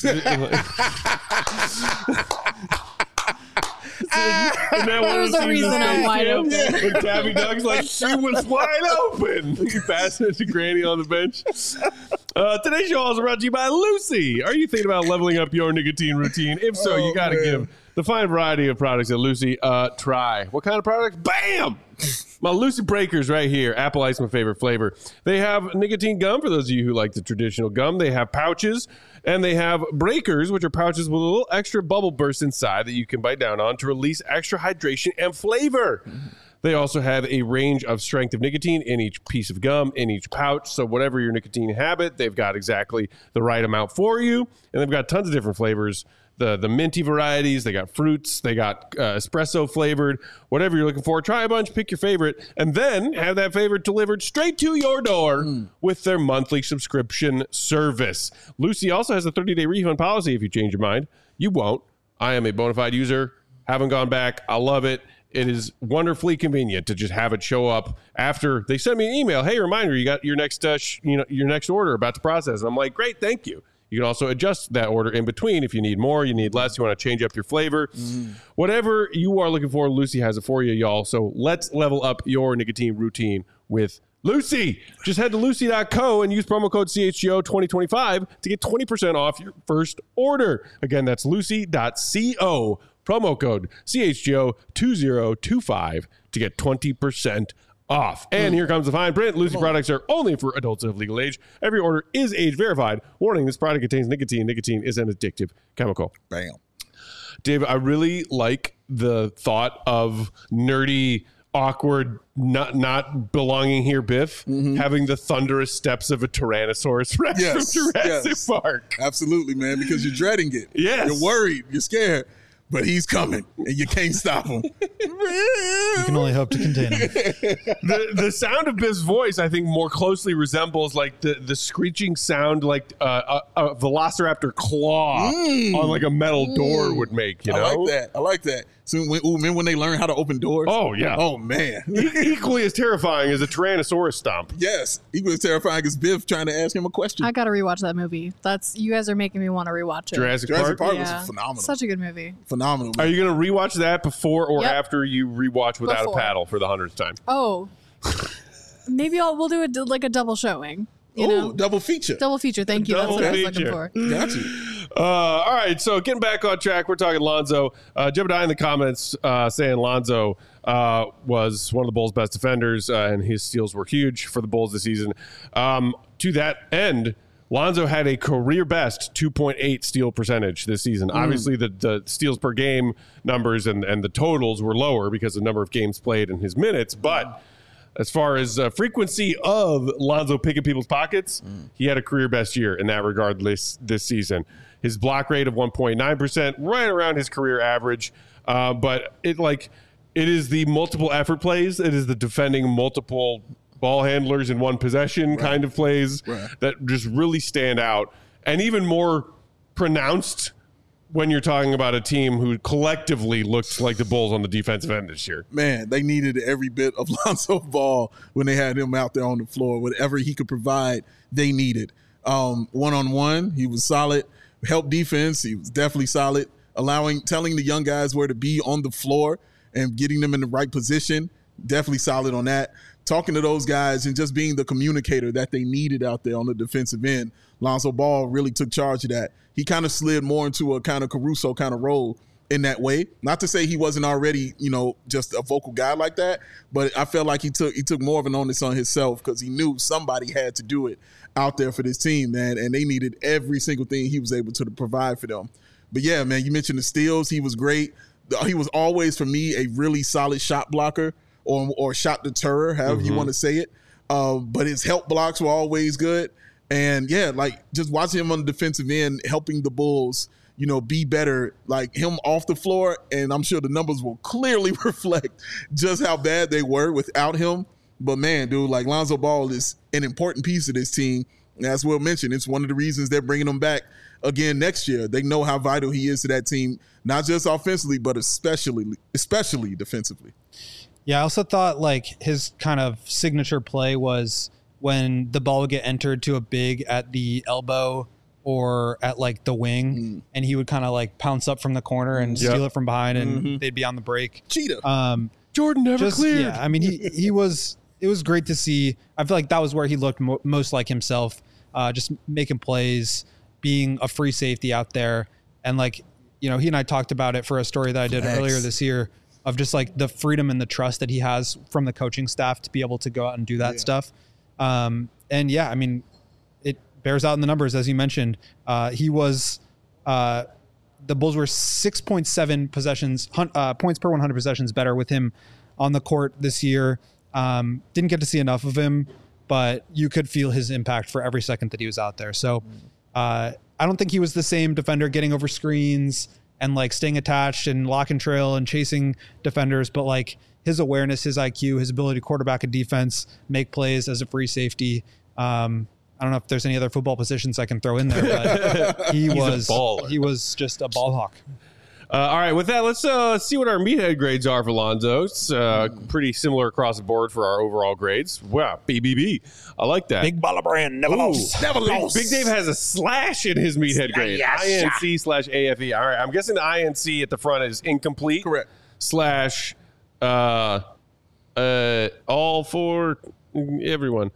There was a reason I'm wide open. When Tabby Doug's like, she was wide open. You pass it to Granny on the bench. Today's show is brought to you by Lucy. Are you thinking about leveling up your nicotine routine? If so, you got to give the fine variety of products at Lucy a try. What kind of products? Bam! My Lucy Breakers right here. Apple Ice, my favorite flavor. They have nicotine gum for those of you who like the traditional gum. They have pouches, and they have breakers, which are pouches with a little extra bubble burst inside that you can bite down on to release extra hydration and flavor. They also have a range of strength of nicotine in each piece of gum, in each pouch. So whatever your nicotine habit, they've got exactly the right amount for you. And they've got tons of different flavors. The minty varieties, they got fruits, they got espresso flavored, whatever you're looking for. Try a bunch, pick your favorite, and then have that favorite delivered straight to your door with their monthly subscription service. Lucy also has a 30-day refund policy if you change your mind. You won't. I am a bona fide user, haven't gone back. I love it. It is wonderfully convenient to just have it show up after they send me an email. Hey, reminder, you got your next your next order about to process. And I'm like, great, thank you. You can also adjust that order in between if you need more, you need less, you want to change up your flavor. Whatever you are looking for, Lucy has it for you, y'all. So let's level up your nicotine routine with Lucy. Just head to lucy.co and use promo code CHGO2025 to get 20% off your first order. Again, that's lucy.co, promo code CHGO2025 to get 20% off. And here comes the fine print. Lucy products are only for adults of legal age. Every order is age verified. Warning, this product contains nicotine. Nicotine is an addictive chemical. Bam. Dave, I really like the thought of nerdy, awkward, not belonging here Biff having the thunderous steps of a Tyrannosaurus Rex from Jurassic Park. Absolutely, man, because you're dreading it. Yes. You're worried. You're scared. But he's coming, and you can't stop him. You can only hope to contain him. The sound of Biff's voice, I think, more closely resembles like the screeching sound like a Velociraptor claw on like a metal door would make. You know, I like that. So remember when they learn how to open doors? Oh yeah. Oh man. Equally as terrifying as a Tyrannosaurus stomp. Yes, equally as terrifying as Biff trying to ask him a question. I gotta rewatch that movie. You guys are making me want to rewatch it. Jurassic Park Yeah. was phenomenal. Such a good movie. Phenomenal. Are you going to rewatch that before or Yep. after you rewatch Without Before. a Paddle for the 100th time? Oh, maybe we'll do like a double showing. You know, double feature. double feature. Thank you. That's what I was looking Double for. Got you. All right, so getting back on track, we're talking Lonzo. Jebediah in the comments saying Lonzo was one of the Bulls' best defenders, and his steals were huge for the Bulls this season. To that end, Lonzo had a career best 2.8 steal percentage this season. Obviously, the steals per game numbers and the totals were lower because of the number of games played and his minutes. But as far as frequency of Lonzo picking people's pockets, he had a career best year in that regard this season. His block rate of 1.9%, right around his career average. But it is the multiple effort plays. It is the defending multiple ball handlers in one possession kind of plays that just really stand out, and even more pronounced when you're talking about a team who collectively looked like the Bulls on the defensive end this year. Man, they needed every bit of Lonzo Ball when they had him out there on the floor. Whatever he could provide, they needed. One-on-one, he was solid. Help defense, he was definitely solid. Telling the young guys where to be on the floor and getting them in the right position, definitely solid on that. Talking to those guys and just being the communicator that they needed out there on the defensive end. Lonzo Ball really took charge of that. He kind of slid more into a kind of Caruso kind of role in that way. Not to say he wasn't already, just a vocal guy like that, but I felt like he took more of an onus on himself because he knew somebody had to do it out there for this team, man, and they needed every single thing he was able to provide for them. But yeah, man, you mentioned the steals. He was great. He was always, for me, a really solid shot blocker. Or shot deterrer, however you want to say it. But his help blocks were always good. And, yeah, just watching him on the defensive end, helping the Bulls, be better, like him off the floor. And I'm sure the numbers will clearly reflect just how bad they were without him. But, man, dude, Lonzo Ball is an important piece of this team. And as Will mentioned, it's one of the reasons they're bringing him back again next year. They know how vital he is to that team, not just offensively, but especially defensively. Yeah, I also thought his kind of signature play was when the ball would get entered to a big at the elbow or at the wing, and he would kind of pounce up from the corner and steal it from behind, and they'd be on the break. Cheetah. Jordan never cleared. Yeah, I mean, it was great to see. I feel like that was where he looked most like himself, just making plays, being a free safety out there, and he and I talked about it for a story that I did earlier this year. Of just the freedom and the trust that he has from the coaching staff to be able to go out and do that stuff. And yeah, I mean, it bears out in the numbers, as you mentioned. He was, the Bulls were 6.7 possessions, points per 100 possessions better with him on the court this year. Didn't get to see enough of him, but you could feel his impact for every second that he was out there. So I don't think he was the same defender getting over screens and staying attached and lock and trail and chasing defenders, but his awareness, his IQ, his ability to quarterback a defense, make plays as a free safety. I don't know if there's any other football positions I can throw in there, but he was just a ball hawk. All right, with that, let's see what our meathead grades are for Lonzo. It's pretty similar across the board for our overall grades. Wow, BBB. I like that. Big baller brand, never lost. Never lost. Big Dave has a slash in his meathead grade. INC/AFE. All right, I'm guessing the INC at the front is incomplete. Correct. Slash all for everyone.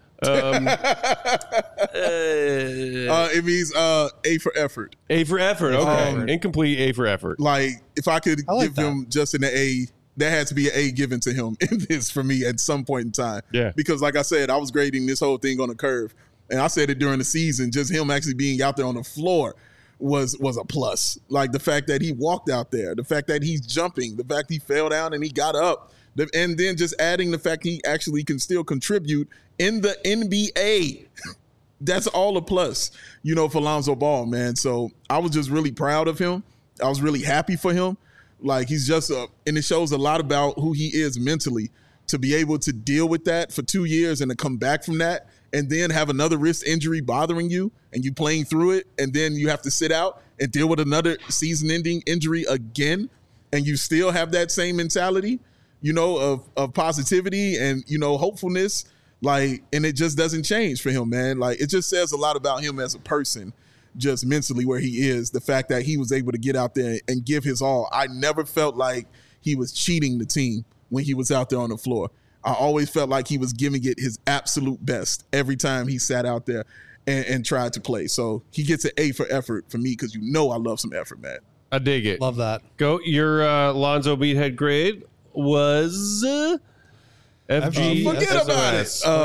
It means A for effort. A for effort. Okay. Incomplete A for effort. If I could give him just an A, there had to be an A given to him in this for me at some point in time. Yeah. Because like I said, I was grading this whole thing on a curve. And I said it during the season, just him actually being out there on the floor was a plus. The fact that he walked out there, the fact that he's jumping, the fact he fell down and he got up. And then just adding the fact he actually can still contribute in the NBA. That's all a plus, for Lonzo Ball, man. So I was just really proud of him. I was really happy for him. He's just and it shows a lot about who he is mentally to be able to deal with that for 2 years and to come back from that and then have another wrist injury bothering you and you playing through it. And then you have to sit out and deal with another season-ending injury again. And you still have that same mentality. Of positivity and, hopefulness, and it just doesn't change for him, man. It just says a lot about him as a person, just mentally where he is, the fact that he was able to get out there and give his all. I never felt like he was cheating the team when he was out there on the floor. I always felt like he was giving it his absolute best every time he sat out there and tried to play. So he gets an A for effort for me because I love some effort, man. I dig it. Love that. Go your Lonzo meathead grade. was FG. Forget about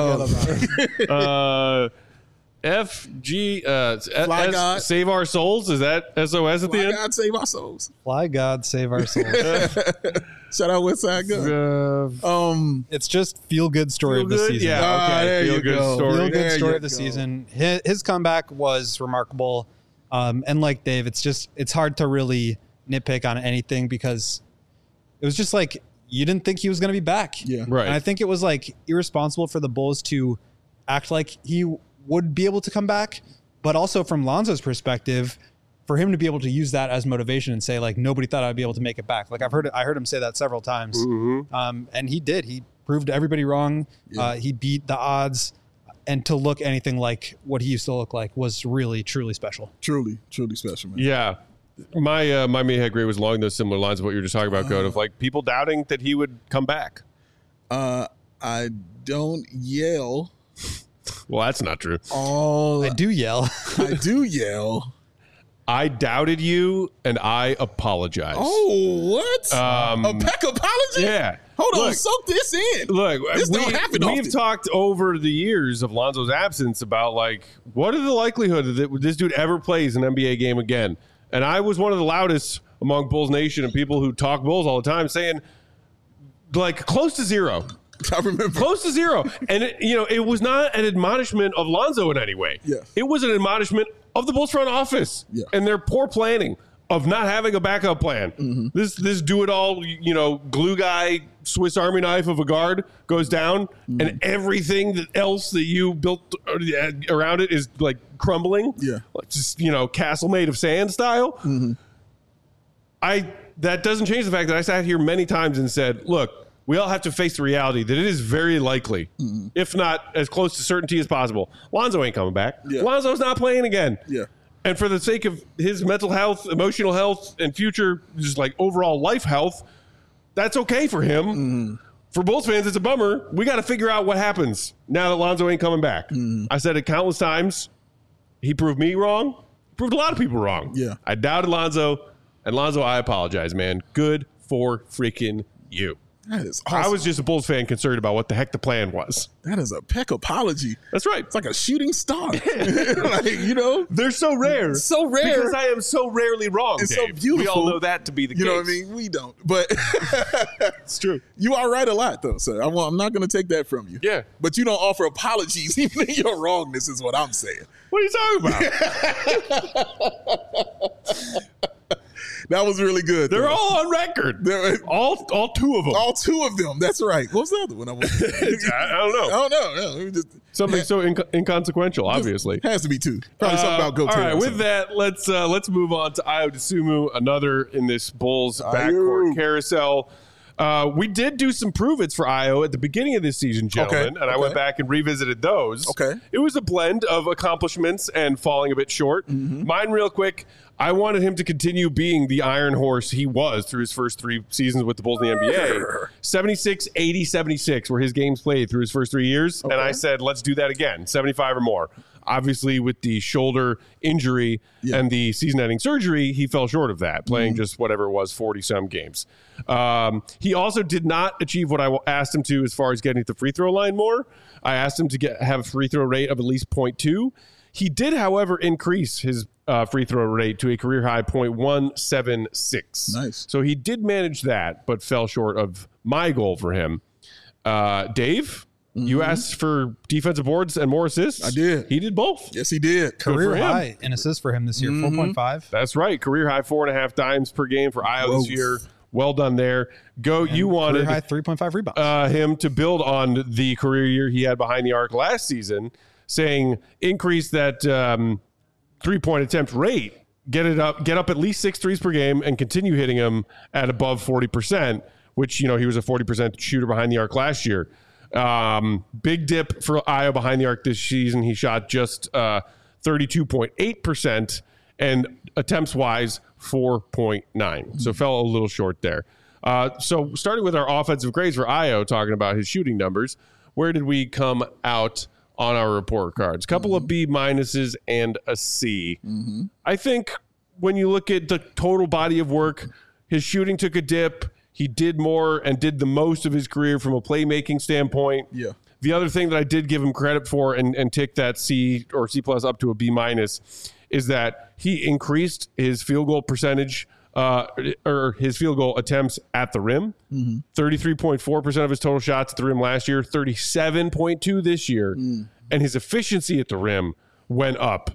it. FG. Fly God. Save our souls. Is that SOS at the Fly end? God save our souls. Fly God, save our souls. Shout out Westside Gun. It's just feel good story Feel of the good? season. Yeah. Okay. There Feel you good go. story. Feel good There story you of the go. season. His comeback was remarkable. And like Dave, it's hard to really nitpick on anything because it was just like you didn't think he was going to be back. Yeah. Right. And I think it was like irresponsible for the Bulls to act like he would be able to come back, but also from Lonzo's perspective, for him to be able to use that as motivation and say like nobody thought I'd be able to make it back. Like I heard him say that several times, and he did. He proved everybody wrong. Yeah. He beat the odds, and to look anything like what he used to look like was really truly special. Truly special, man. Yeah. My main head grade was along those similar lines of what you were just talking about, Goat, of like people doubting that he would come back. I don't yell. Well, that's not true. I do yell. I do yell. I doubted you, and I apologize. Oh, what? A peck apology? Yeah. Hold on, Look, soak this in. Look, This don't happen we've often. talked over the years of Lonzo's absence about like what are the likelihood that this dude ever plays an NBA game again? And I was one of the loudest among Bulls Nation and people who talk Bulls all the time saying like close to zero. I remember. Close to zero. And it was not an admonishment of Lonzo in any way. Yeah. It was an admonishment of the Bulls front office and their poor planning of not having a backup plan. This do it all, glue guy, Swiss Army knife of a guard goes down and everything else that you built around it is like crumbling. Yeah. Like just, castle made of sand style. That doesn't change the fact that I sat here many times and said, look, we all have to face the reality that it is very likely, if not as close to certainty as possible, Lonzo ain't coming back. Yeah. Lonzo's not playing again. Yeah. And for the sake of his mental health, emotional health, and future, just like overall life health, that's okay for him. For Bulls fans, it's a bummer. We got to figure out what happens now that Lonzo ain't coming back. I said it countless times. He proved me wrong. He proved a lot of people wrong. Yeah. I doubted Lonzo. And Lonzo, I apologize, man. Good for freaking you. That is awesome. I was just a Bulls fan concerned about what the heck the plan was. That is a peck apology. That's right. It's like a shooting star. They're so rare. So rare. Because I am so rarely wrong. It's Dave. so beautiful. We all know that to be the case. You know what I mean? We don't. But It's true. you are right a lot, though, sir. I'm not going to take that from you. Yeah. But you don't offer apologies even in your wrongness is what I'm saying. What are you talking about? That was really good. They're though. all on record. They're- All two of them. all two of them. That's right. What was the other one? I don't know. I don't know. No, it just, Something so inconsequential, obviously. has to be two. Probably something about go all right, with that, let's move on to Ayo Dosunmu, another in this Bulls backcourt carousel. We did do some prove-its for Ayo at the beginning of this season, gentlemen, and I went back and revisited those. Okay. It was a blend of accomplishments and falling a bit short. Mine real quick, I wanted him to continue being the iron horse he was through his first 3 seasons with the Bulls in the NBA. 76, 80, 76 were his games played through his first 3 years, and I said, let's do that again, 75 or more. Obviously, with the shoulder injury and the season-ending surgery, he fell short of that, playing just whatever it was, 40-some games. He also did not achieve what I asked him to as far as getting to the free throw line more. I asked him to have a free throw rate of at least 0.2. He did, however, increase his free throw rate to a career-high 0.176. Nice. So he did manage that, but fell short of my goal for him. Dave? You asked for defensive boards and more assists. I did. He did both. Yes, he did. Career him. high in assists for him this year, 4.5. That's right. Career high 4.5 dimes per game for Ayo this Whoa. year. Well done there. You wanted Career high 3.5 rebounds. him to build on the career year he had behind the arc last season, saying increase that 3-point attempt rate, get up at least 6 threes per game, and continue hitting them at above 40%, which he was a 40% shooter behind the arc last year. Big dip for Ayo behind the arc this season. He shot just 32.8%, and attempts wise 4.9. So fell a little short there. So starting with our offensive grades for Ayo, talking about his shooting numbers, where did we come out on our report cards? A couple of B minuses and a C. I think when you look at the total body of work, his shooting took a dip. He did more and did the most of his career from a playmaking standpoint. Yeah. The other thing that I did give him credit for and tick that C or C plus up to a B minus is that he increased his field goal percentage or his field goal attempts at the rim. 33.4% of his total shots at the rim last year, 37.2 this year. And his efficiency at the rim went up.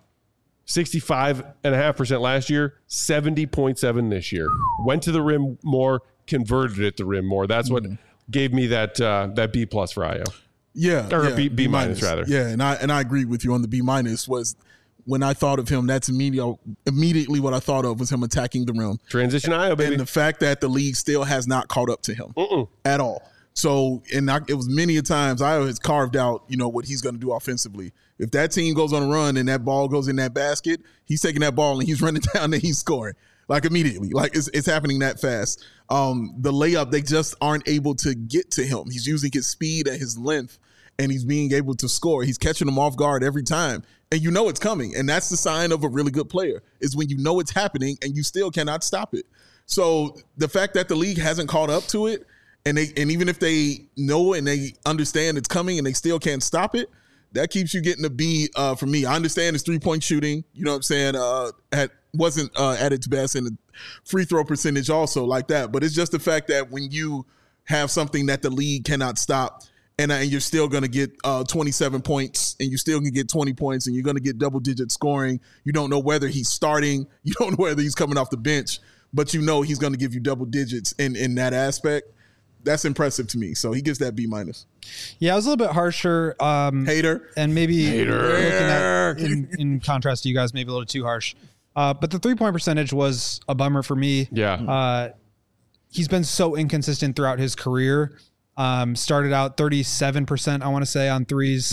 65.5% last year, 70.7 this year. Went to the rim more, converted at the rim more. That's what gave me that B plus for Ayo. Yeah. Or yeah, B minus rather. Yeah, and I agree with you on the B minus. Was when I thought of him, that's immediately what I thought of was him attacking the rim. Transition Ayo, baby. And the fact that the league still has not caught up to him at all. So, it was many a times Ayo has carved out, what he's going to do offensively. If that team goes on a run and that ball goes in that basket, he's taking that ball and he's running down and he's scoring like immediately. Like it's happening that fast. The layup, they just aren't able to get to him. He's using his speed and his length and he's being able to score. He's catching them off guard every time. And it's coming. And that's the sign of a really good player is when it's happening and you still cannot stop it. So the fact that the league hasn't caught up to it and even if they know and they understand it's coming and they still can't stop it, that keeps you getting a B for me. I understand his 3-point shooting, you know what I'm saying, wasn't at its best, and the free throw percentage also like that. But it's just the fact that when you have something that the league cannot stop and you're still going to get 27 points and you still can get 20 points and you're going to get double-digit scoring, you don't know whether he's starting, you don't know whether he's coming off the bench, but he's going to give you double digits in that aspect. That's impressive to me. So he gets that B minus. Yeah, I was a little bit harsher. Hater. And maybe looking at, in contrast to you guys, maybe a little too harsh. But the 3-point percentage was a bummer for me. Yeah. He's been so inconsistent throughout his career. Started out 37%, I want to say, on threes.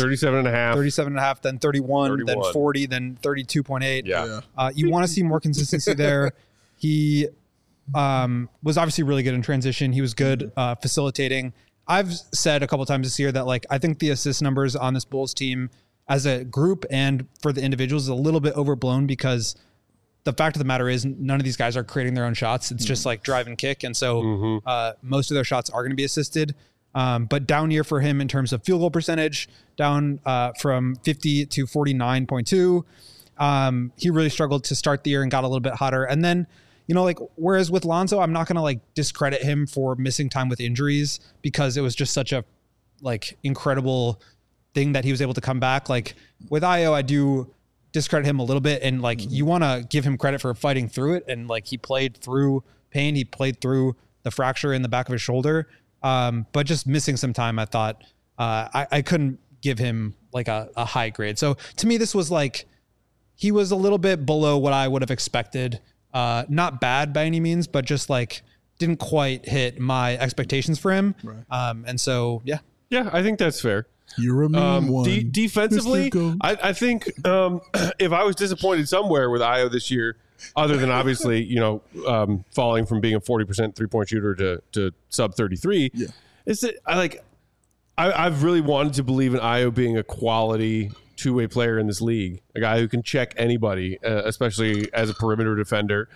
37.5, then 31, then 40, then 32.8. Yeah. You want to see more consistency there. He was obviously really good in transition. He was good facilitating. I've said a couple times this year that I think the assist numbers on this Bulls team as a group and for the individuals is a little bit overblown because the fact of the matter is none of these guys are creating their own shots. It's just drive and kick. And so most of their shots are going to be assisted. But down year for him in terms of field goal percentage, down from 50 to 49.2. He really struggled to start the year and got a little bit hotter. And then, whereas with Lonzo, I'm not going to discredit him for missing time with injuries because it was just such a incredible thing that he was able to come back. With Ayo, I do discredit him a little bit. And you want to give him credit for fighting through it. And he played through pain. He played through the fracture in the back of his shoulder. But just missing some time, I thought I couldn't give him a high grade. So to me, this was he was a little bit below what I would have expected. Not bad by any means, but just didn't quite hit my expectations for him. Right. And so, yeah. Yeah, I think that's fair. You're a mean one. Defensively, I think if I was disappointed somewhere with Ayo this year, other than obviously, falling from being a 40% 3-point shooter to sub 33, is that I've really wanted to believe in Ayo being a quality two-way player in this league, a guy who can check anybody, especially as a perimeter defender.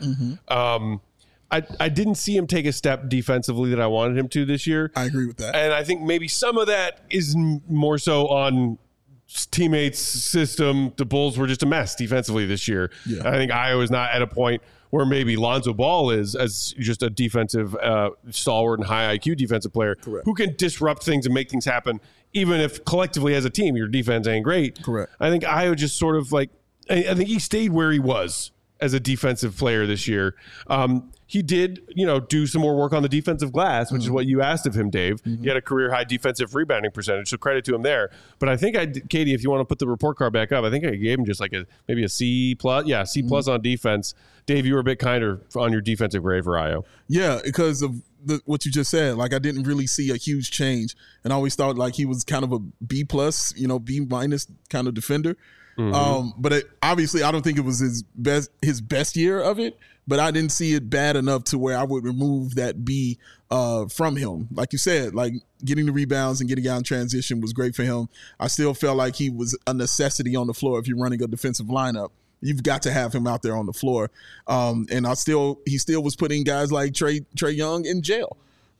I didn't see him take a step defensively that I wanted him to this year. I agree with that. And I think maybe some of that is more so on teammates' system. The Bulls were just a mess defensively this year. Yeah. I think Ayo is not at a point where maybe Lonzo Ball is as just a defensive stalwart and high IQ defensive player. Correct. Who can disrupt things and make things happen, even if collectively as a team your defense ain't great. Correct. I think Ayo just sort of I think he stayed where he was as a defensive player this year. He did, do some more work on the defensive glass, which is what you asked of him, Dave. He had a career-high defensive rebounding percentage, so credit to him there. But I think Katie, if you want to put the report card back up, I think I gave him just maybe a C+. Yeah, C+ on defense. Dave, you were a bit kinder on your defensive grade for Ayo. Yeah, because of what you just said. I didn't really see a huge change, and I always thought he was kind of a B+, B- kind of defender. But obviously, I don't think it was his best year of it. But I didn't see it bad enough to where I would remove that B from him. Like you said, getting the rebounds and getting out in transition was great for him. I still felt like he was a necessity on the floor. If you're running a defensive lineup, you've got to have him out there on the floor. And he still was putting guys like Trae Young in jail.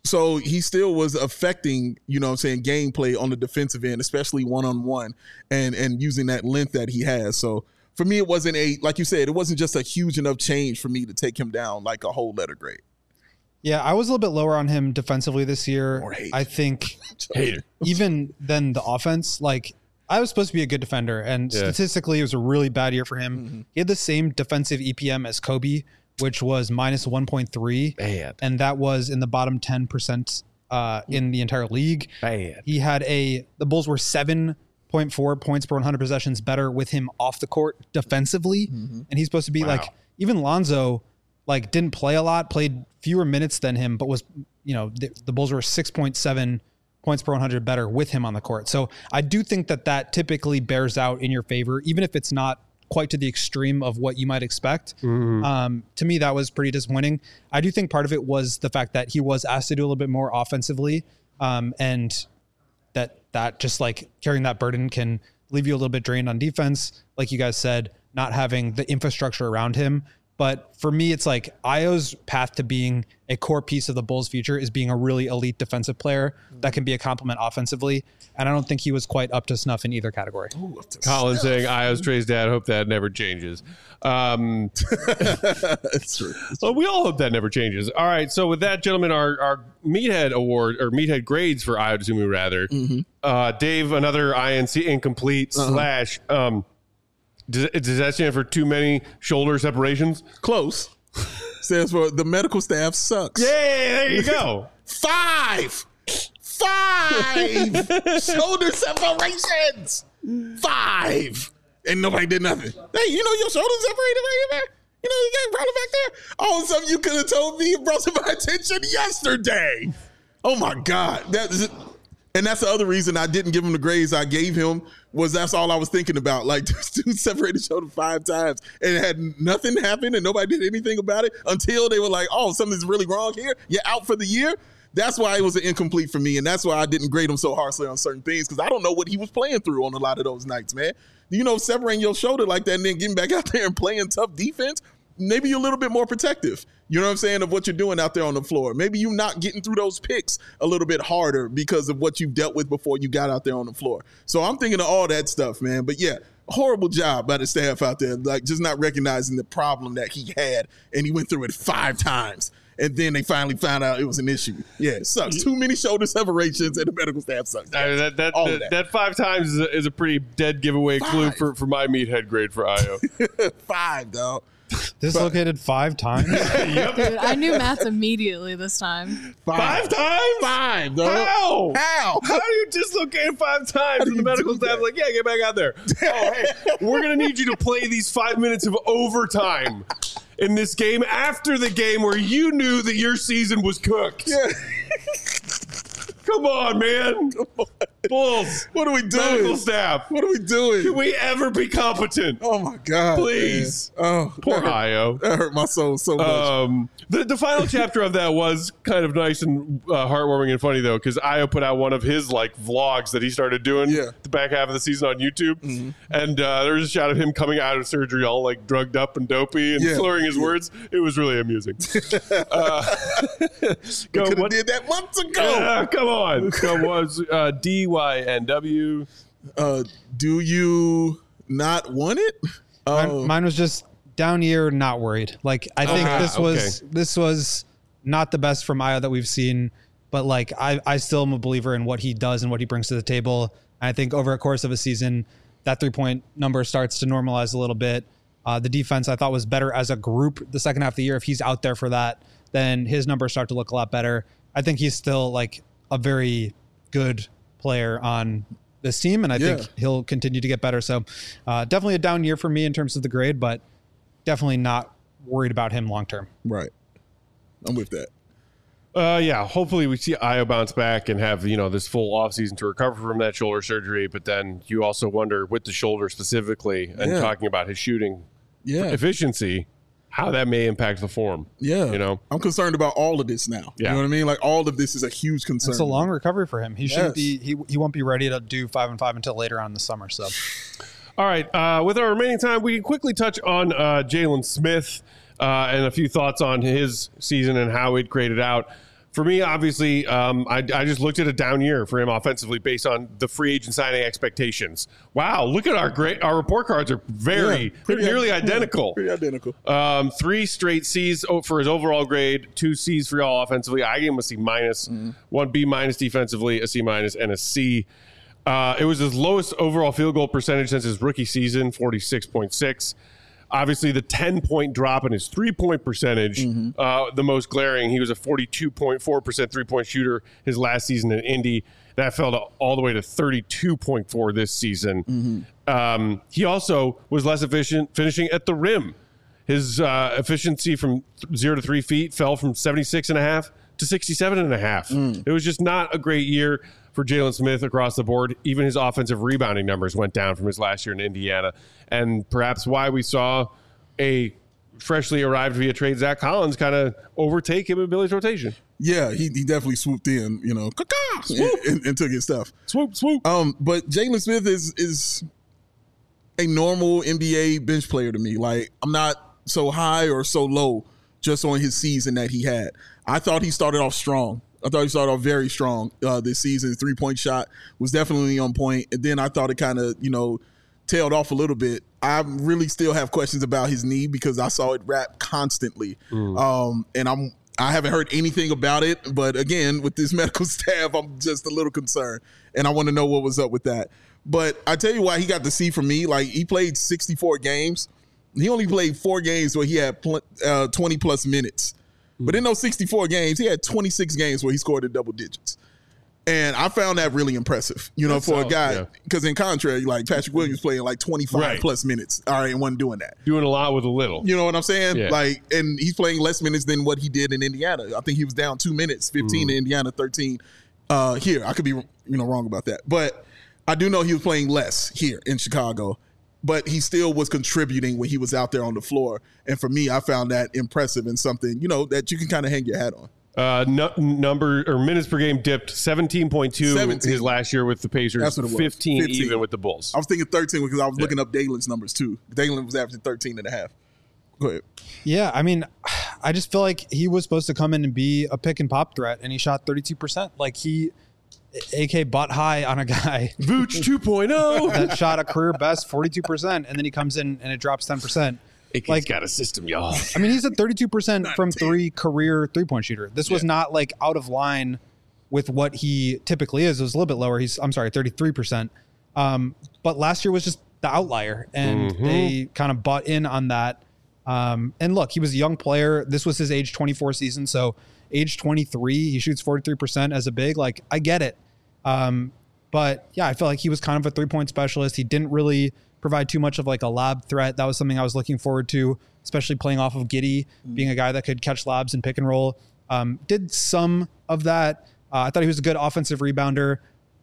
So he still was affecting, gameplay on the defensive end, especially one-on-one and using that length that he has. So for me, it wasn't like you said, it wasn't just a huge enough change for me to take him down like a whole letter grade. Yeah, I was a little bit lower on him defensively this year. I think even then the offense, like I was supposed to be a good defender, and statistically it was a really bad year for him. Mm-hmm. He had the same defensive EPM as Kobe, which was minus 1.3. Bad. And that was in the bottom 10% in the entire league. Bad. He had the Bulls were 7.4 points per 100 possessions better with him off the court defensively. Mm-hmm. And he's supposed to be like, even Lonzo, like didn't play a lot, played fewer minutes than him, but was, the Bulls were 6.7 points per 100 better with him on the court. So I do think that typically bears out in your favor, even if it's not quite to the extreme of what you might expect. Mm-hmm. To me, that was pretty disappointing. I do think part of it was the fact that he was asked to do a little bit more offensively, and that just like carrying that burden can leave you a little bit drained on defense. Like you guys said, not having the infrastructure around him. But for me, it's like Ayo's path to being a core piece of the Bulls' future is being a really elite defensive player that can be a complement offensively. And I don't think he was quite up to snuff in either category. Colin saying Ayo's Trey's dad. Hope that never changes. That's true. Well, we all hope that never changes. All right. So with that, gentlemen, our Meathead Award or Meathead grades for Ayo Dosunmu rather. Mm-hmm. Dave, another INC incomplete slash. Does that stand for too many shoulder separations? Close. Stands for the medical staff sucks. Yeah, there you go. 5 shoulder separations. 5. And nobody did nothing. Hey, your shoulder separated right here, man. You got a problem back there? Oh, something you could have told me and brought to my attention yesterday. Oh, my God. And that's the other reason I didn't give him the grades I gave him was that's all I was thinking about. Like, this dude separated his shoulder 5 times and it had nothing happen and nobody did anything about it until they were like, oh, something's really wrong here. You're out for the year. That's why it was an incomplete for me. And that's why I didn't grade him so harshly on certain things because I don't know what he was playing through on a lot of those nights, man. Separating your shoulder like that and then getting back out there and playing tough defense, maybe you're a little bit more protective. You know what I'm saying, of what you're doing out there on the floor. Maybe you're not getting through those picks a little bit harder because of what you've dealt with before you got out there on the floor. So I'm thinking of all that stuff, man. But yeah, horrible job by the staff out there, like just not recognizing the problem that he had, and he went through it 5 times. And then they finally found out it was an issue. Yeah, it sucks. Too many shoulder separations, and the medical staff sucks. That 5 times is a pretty dead giveaway clue for my Meathead grade for Ayo. 5, dog. Dislocated 5 times? Yep. Dude, I knew math immediately this time. 5 times? 5, dog. How do you dislocate 5 times? And the medical staff like, yeah, get back out there. Oh, hey, we're going to need you to play these 5 minutes of overtime in this game after the game where you knew that your season was cooked. Yeah. Come on, man. Bulls. What are we doing? Medical staff. What are we doing? Can we ever be competent? Oh, my God. Please. Man. Oh, poor Ayo. That hurt my soul so much. The final chapter of that was kind of nice and heartwarming and funny, though, because Ayo put out one of his like vlogs that he started doing the back half of the season on YouTube. Mm-hmm. And there was a shot of him coming out of surgery all like drugged up and dopey and slurring his words. It was really amusing. Could have did that months ago. Come on. Was DYNW. Do you not want it? Mine was just down year, not worried. Like I think this was not the best from Ayo that we've seen, but like I still am a believer in what he does and what he brings to the table. And I think over a course of a season, that 3-point number starts to normalize a little bit. The defense I thought was better as a group the second half of the year. If he's out there for that, then his numbers start to look a lot better. I think he's still like a very good player on this team, and I think he'll continue to get better. So definitely a down year for me in terms of the grade, but definitely not worried about him long term. Right. I'm with that. Hopefully we see Ayo bounce back and have, this full offseason to recover from that shoulder surgery. But then you also wonder with the shoulder specifically and talking about his shooting efficiency, how that may impact the form. Yeah. I'm concerned about all of this now. Yeah. You know what I mean? Like all of this is a huge concern. It's a long recovery for him. He shouldn't be, he won't be ready to do 5-5 until later on in the summer. So, all right. With our remaining time, we can quickly touch on Jalen Smith and a few thoughts on his season and how it graded out. For me, obviously, I just looked at a down year for him offensively based on the free agent signing expectations. Wow, look at our report cards are they're nearly identical. Pretty identical. 3 straight C's for his overall grade, 2 C's for y'all offensively. I gave him a C minus, 1 B minus defensively, a C minus, and a C. It was his lowest overall field goal percentage since his rookie season, 46.6. Obviously, the 10-point drop in his three-point percentage, the most glaring. He was a 42.4% three-point shooter his last season in Indy. That fell to all the way to 32.4 this season. He also was less efficient finishing at the rim. His efficiency from 0 to 3 feet fell from 76.5 to 67.5. It was just not a great year for Jalen Smith across the board. Even his offensive rebounding numbers went down from his last year in Indiana. And perhaps why we saw a freshly arrived via trade Zach Collins kind of overtake him in Billy's rotation. Yeah, he definitely swooped in, and took his stuff. Swoop. But Jalen Smith is a normal NBA bench player to me. Like, I'm not so high or so low just on his season that he had. I thought he started off strong. I thought he started off very strong this season. His three-point shot was definitely on point. And then I thought it kind of, tailed off a little bit. I really still have questions about his knee because I saw it wrap constantly. And I haven't heard anything about it. But again, with this medical staff, I'm just a little concerned. And I want to know what was up with that. But I tell you why he got the C from me. Like, he played 64 games. He only played 4 games where he had 20-plus minutes. But in those 64 games, he had 26 games where he scored in double digits. And I found that really impressive, for a guy. Because in contrary, like Patrick Williams playing like 25-plus minutes, and wasn't doing that. Doing a lot with a little. You know what I'm saying? Yeah. Like, and he's playing less minutes than what he did in Indiana. I think he was down 2 minutes, 15 in Indiana, 13 here. I could be, wrong about that. But I do know he was playing less here in Chicago. But he still was contributing when he was out there on the floor. And for me, I found that impressive and something, that you can kind of hang your hat on. Number or minutes per game dipped 17.2 his last year with the Pacers. That's what it was. 15 even with the Bulls. I was thinking 13 because I was looking up Dalen's numbers too. Dalen was averaging 13.5. Go ahead. Yeah, I mean, I just feel like he was supposed to come in and be a pick and pop threat, and he shot 32%. Like, he AK butt high on a guy Vooch 2.0 that shot a career best 42%, and then he comes in and it drops 10%. AK's got a system, y'all. I mean, he's a 32% from 3 career 3-point shooter. This was not like out of line with what he typically is. It was a little bit lower. 33%. But last year was just the outlier, and they kind of bought in on that. And look, he was a young player. This was his age 24 season, so age 23, he shoots 43% as a big. Like, I get it. But yeah, I feel like he was kind of a 3-point specialist. He didn't really provide too much of like a lob threat. That was something I was looking forward to, especially playing off of Giddey, being a guy that could catch lobs and pick and roll. Did some of that. I thought he was a good offensive rebounder.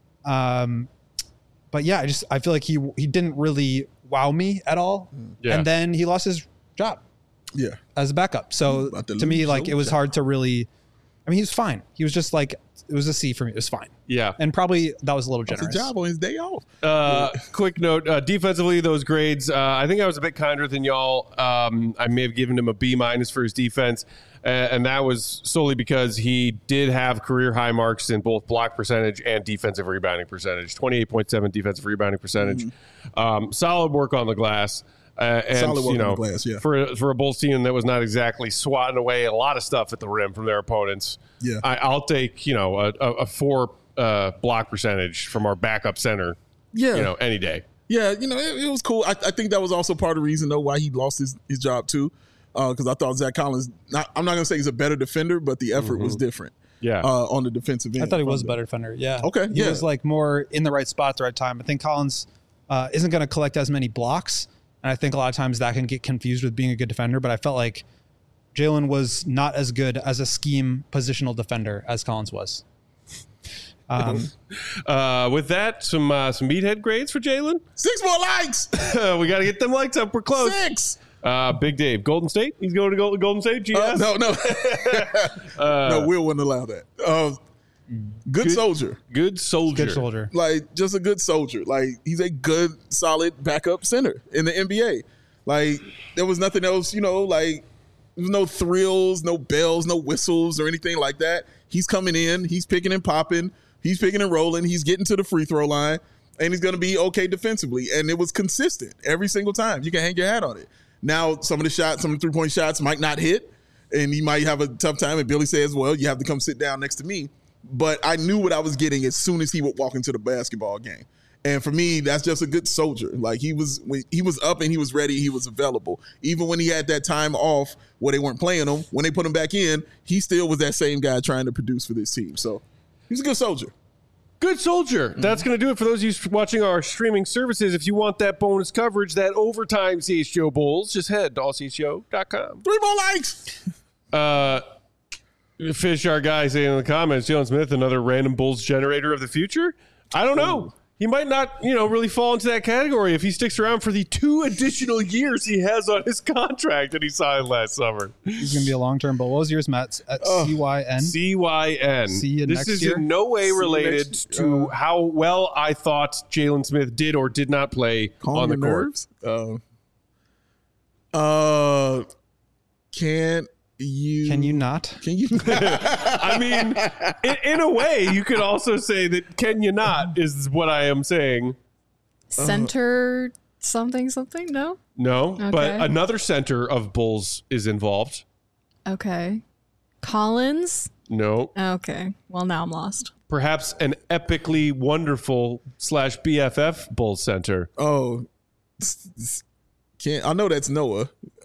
But yeah, I feel like he didn't really wow me at all. Yeah. And then he lost his job. Yeah. As a backup. So to me, like, it was hard to really, I mean, he was fine. He was just like, it was a C for me. It was fine. Yeah. And probably that was a little generous. That's a job on his day off. Quick note, defensively, those grades, I think I was a bit kinder than y'all. I may have given him a B minus for his defense. And that was solely because he did have career high marks in both block percentage and defensive rebounding percentage. 28.7 defensive rebounding percentage. Solid work on the glass. And, solid work on the glass, yeah. For a Bulls team that was not exactly swatting away a lot of stuff at the rim from their opponents. Yeah, I'll take a 4 block percentage from our backup center. Yeah, any day. Yeah, it was cool. I think that was also part of the reason though why he lost his job too, because I thought Zach Collins. I'm not gonna say he's a better defender, but the effort was different. Yeah, on the defensive end. I thought he was a better defender. Yeah. Okay. He was like more in the right spot at the right time. I think Collins isn't going to collect as many blocks. And I think a lot of times that can get confused with being a good defender, but I felt like Jalen was not as good as a scheme positional defender as Collins was. With that, some meathead grades for Jalen. 6 more likes. We got to get them likes up. We're close. 6. Big Dave, Golden State. He's going to Golden State. GS? No. No, Will wouldn't allow that. Good soldier. Good soldier. Like, just a good soldier. Like, he's a good, solid backup center in the NBA. Like, there was nothing else, like, there was no thrills, no bells, no whistles or anything like that. he's coming in, he's picking and popping, he's picking and rolling, he's getting to the free throw line, and he's going to be okay defensively. And it was consistent every single time. You can hang your hat on it. Now, some of the 3-point shots might not hit, and he might have a tough time. And Billy says, well, you have to come sit down next to me. But I knew what I was getting as soon as he would walk into the basketball game. And for me, that's just a good soldier. Like he was up and he was ready, he was available. Even when he had that time off where they weren't playing him, when they put him back in, he still was that same guy trying to produce for this team. So he's a good soldier. Good soldier. That's going to do it for those of you watching our streaming services. If you want that bonus coverage, that overtime CHGO Bulls, just head to allchgo.com. 3 more likes. Fish, our guy, saying in the comments, Jalen Smith, another random Bulls generator of the future. I don't know. He might not, really fall into that category if he sticks around for the 2 additional years he has on his contract that he signed last summer. He's going to be a long-term Bull. What was yours, Matt? At CYN? CYN. See you this next is year? in no way related to how well I thought Jalen Smith did or did not play on the court. Can you not? Can you? I mean, in a way, you could also say that can you not is what I am saying. Center something? No? No, Okay. but another center of Bulls is involved. Okay. Collins? No. Okay. Well, now I'm lost. Perhaps an epically wonderful / BFF Bulls center. Oh, I know that's Noah.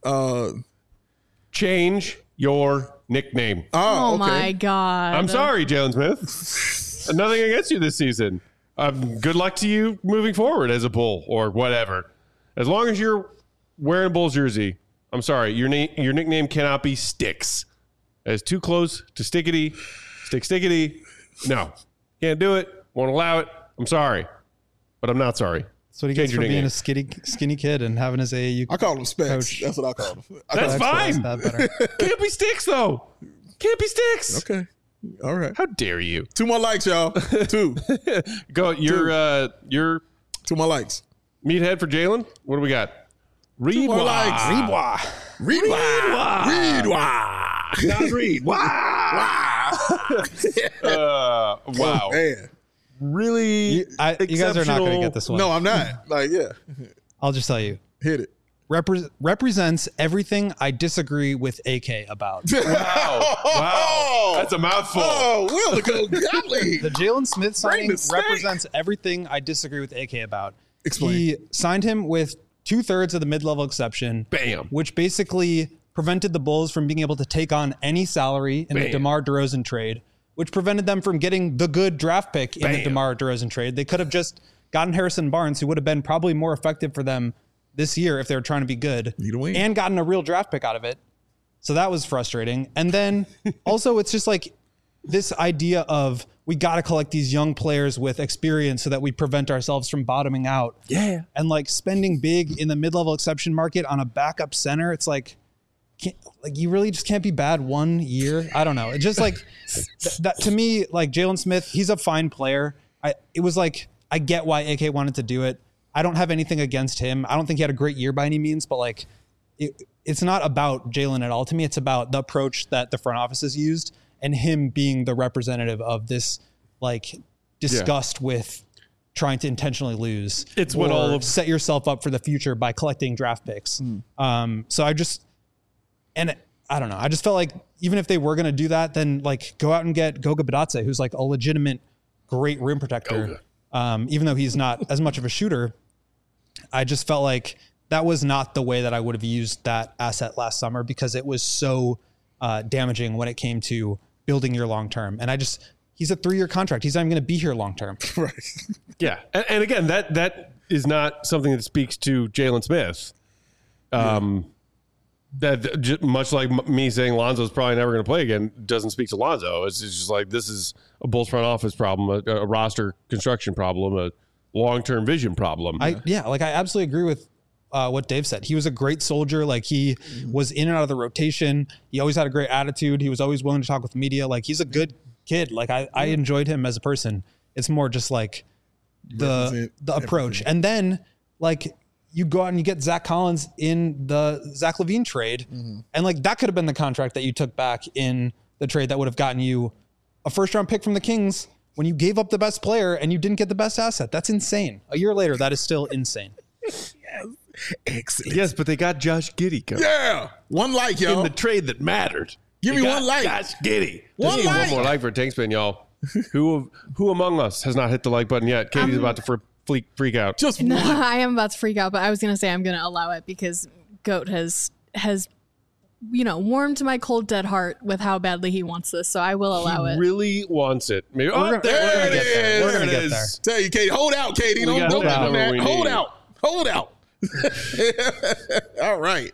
Change your nickname. Oh okay. my God. I'm sorry, Jalen Smith. Nothing against you this season. Good luck to you moving forward as a Bull or whatever. As long as you're wearing a Bulls jersey, I'm sorry, your nickname cannot be Sticks. That is too close to Stickity. Stickity. No, can't do it. Won't allow it. I'm sorry, but I'm not sorry. That's what he Change gets for your being nickname. a skinny kid and having his AAU I call him Specs. coach. That's what I call him. That's fine. That better. Can't be Sticks though. Can't be Sticks. Okay. All right. How dare you? 2 more likes, y'all. 2. Go. Your 2 more likes. meathead for Jalen. What do we got? Reed more Wah. likes. Reed Not Reed. Wow. Man. Really? You guys are not going to get this one. No, I'm not. Like, yeah. I'll just tell you. Hit it. Represents everything I disagree with AK about. Wow. That's a mouthful. Oh, Will to go golly. The Jalen Smith signing the steak. represents everything I disagree with AK about. Explain. He signed him with 2/3 of the mid-level exception. Bam. Which basically prevented the Bulls from being able to take on any salary in the DeMar DeRozan trade, which prevented them from getting the good draft pick in the DeMar DeRozan trade. They could have just gotten Harrison Barnes, who would have been probably more effective for them this year if they were trying to be good, and gotten a real draft pick out of it. So that was frustrating. And then also it's just like this idea of we got to collect these young players with experience so that we prevent ourselves from bottoming out. Yeah. And like spending big in the mid-level exception market on a backup center, it's like, you really just can't be bad 1 year. I don't know. It's just like that to me, like Jalen Smith, he's a fine player. It was like, I get why AK wanted to do it. I don't have anything against him. I don't think he had a great year by any means, but like it's not about Jalen at all to me. It's about the approach that the front office has used and him being the representative of this like disgust with trying to intentionally lose. It's what all of set yourself up for the future by collecting draft picks. So I don't know. I just felt like even if they were going to do that, then like go out and get Goga Badatse, who's like a legitimate great rim protector. Even though he's not as much of a shooter, I just felt like that was not the way that I would have used that asset last summer because it was so damaging when it came to building your long-term. And he's a 3-year contract. He's not even going to be here long-term. Right. Yeah. And again, that is not something that speaks to Jalen Smith. That much like me saying Lonzo's probably never going to play again doesn't speak to Lonzo. It's just like this is a Bulls front office problem, a roster construction problem, a long-term vision problem. I absolutely agree with what Dave said. He was a great soldier. Like he was in and out of the rotation. He always had a great attitude. He was always willing to talk with media. Like he's a good kid. Like I enjoyed him as a person. It's more just like the approach. And then like you go out and you get Zach Collins in the Zach LaVine trade. And like that could have been the contract that you took back in the trade that would have gotten you a first-round pick from the Kings when you gave up the best player and you didn't get the best asset. That's insane. A year later, that is still insane. Excellent. Yes, but they got Josh Giddey, Coach. Yeah. One like, y'all. In the trade that mattered. Give They me got one like. Josh Giddey. One Just like. one more like for Tank Spin, y'all. Who among us has not hit the like button yet? Katie's about to freak out. Just No, one. I am about to freak out, but I was going to say I'm going to allow it because Goat has warmed my cold dead heart with how badly he wants this, so I will allow He it. really wants it. Maybe. We're gonna there get there. We're gonna it get is. there. Tell you, Katie. Hold out, Katie. Don't got do that. that. We Hold need. out. Hold out. All right.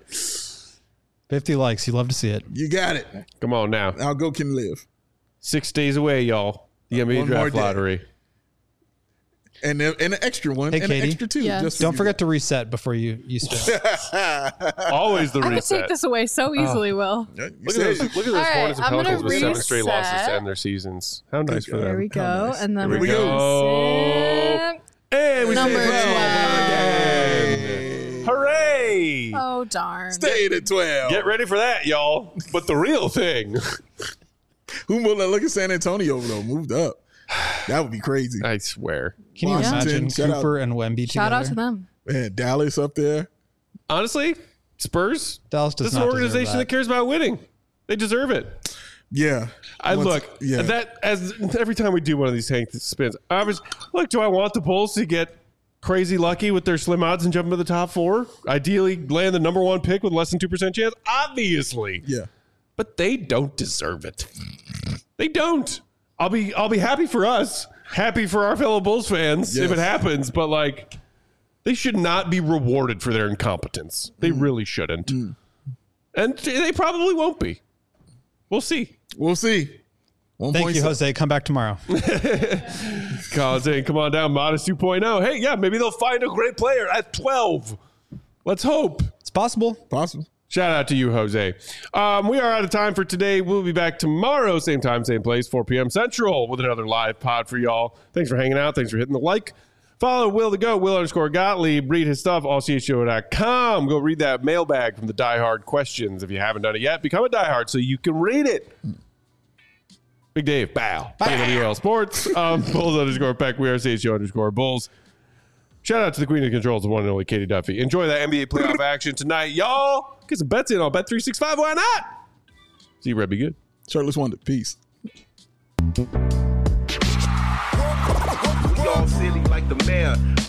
50 likes. You love to see it. You got it. Come on now. How Goat can live. 6 days away, y'all. The NBA One more draft day. lottery. And an extra one. Hey, and an Katie. extra two. Yeah. Just for Don't you. forget to reset before you spin. Always the I could reset. take this away so easily, Will. Yeah, you Look said at those, it. look at those All right, Hornets and I'm gonna Pelicans with 7 straight losses reset. to end their seasons. How nice for them. There we go. nice. And then There we're we going go. to And we Number stay 12. again. Hooray! Oh, darn. Stayed at 12. Get ready for that, y'all. But the real thing. Who will look at San Antonio, though? Moved up. That would be crazy. I swear. Can you Washington, imagine shout out. Cooper and Wemby together? Shout out to them. Man, Dallas up there. Honestly, Spurs. Dallas does This is not an organization deserve that cares about winning. They deserve it. Yeah. I Once- look yeah. that as every time we do one of these Hank spins. I was look. Do I want the Bulls to get crazy lucky with their slim odds and jump into the top 4? Ideally, land the number 1 pick with less than 2% chance. Obviously, Yeah. but they don't deserve it. They don't. I'll be happy for us, happy for our fellow Bulls fans if Yes. it happens. But like, they should not be rewarded for their incompetence. They really shouldn't, and they probably won't be. We'll see. We'll see. Thank you, Jose. Come back tomorrow. Collins saying, come on down, Modest 2.0. Hey, yeah, maybe they'll find a great player at 12. Let's hope. It's possible. Possible. Shout out to you, Jose. We are out of time for today. We'll be back tomorrow, same time, same place, 4 p.m. Central, with another live pod for y'all. Thanks for hanging out. Thanks for hitting the like. Follow Will the Goat, Will_Gottlieb. Read his stuff, allchshow.com. Go read that mailbag from the Die Hard questions. If you haven't done it yet, become a Die Hard so you can read it. Big Dave, bow. WL Sports. Bulls_Peck. We are CHO_Bulls. Shout out to the queen of controls, the one and only Katie Duffy. Enjoy that NBA playoff action tonight, y'all. Get some bets in on Bet365. Why not? See you, Red. Be good. Shirtless Wonder. Peace. Y'all silly like the mayor.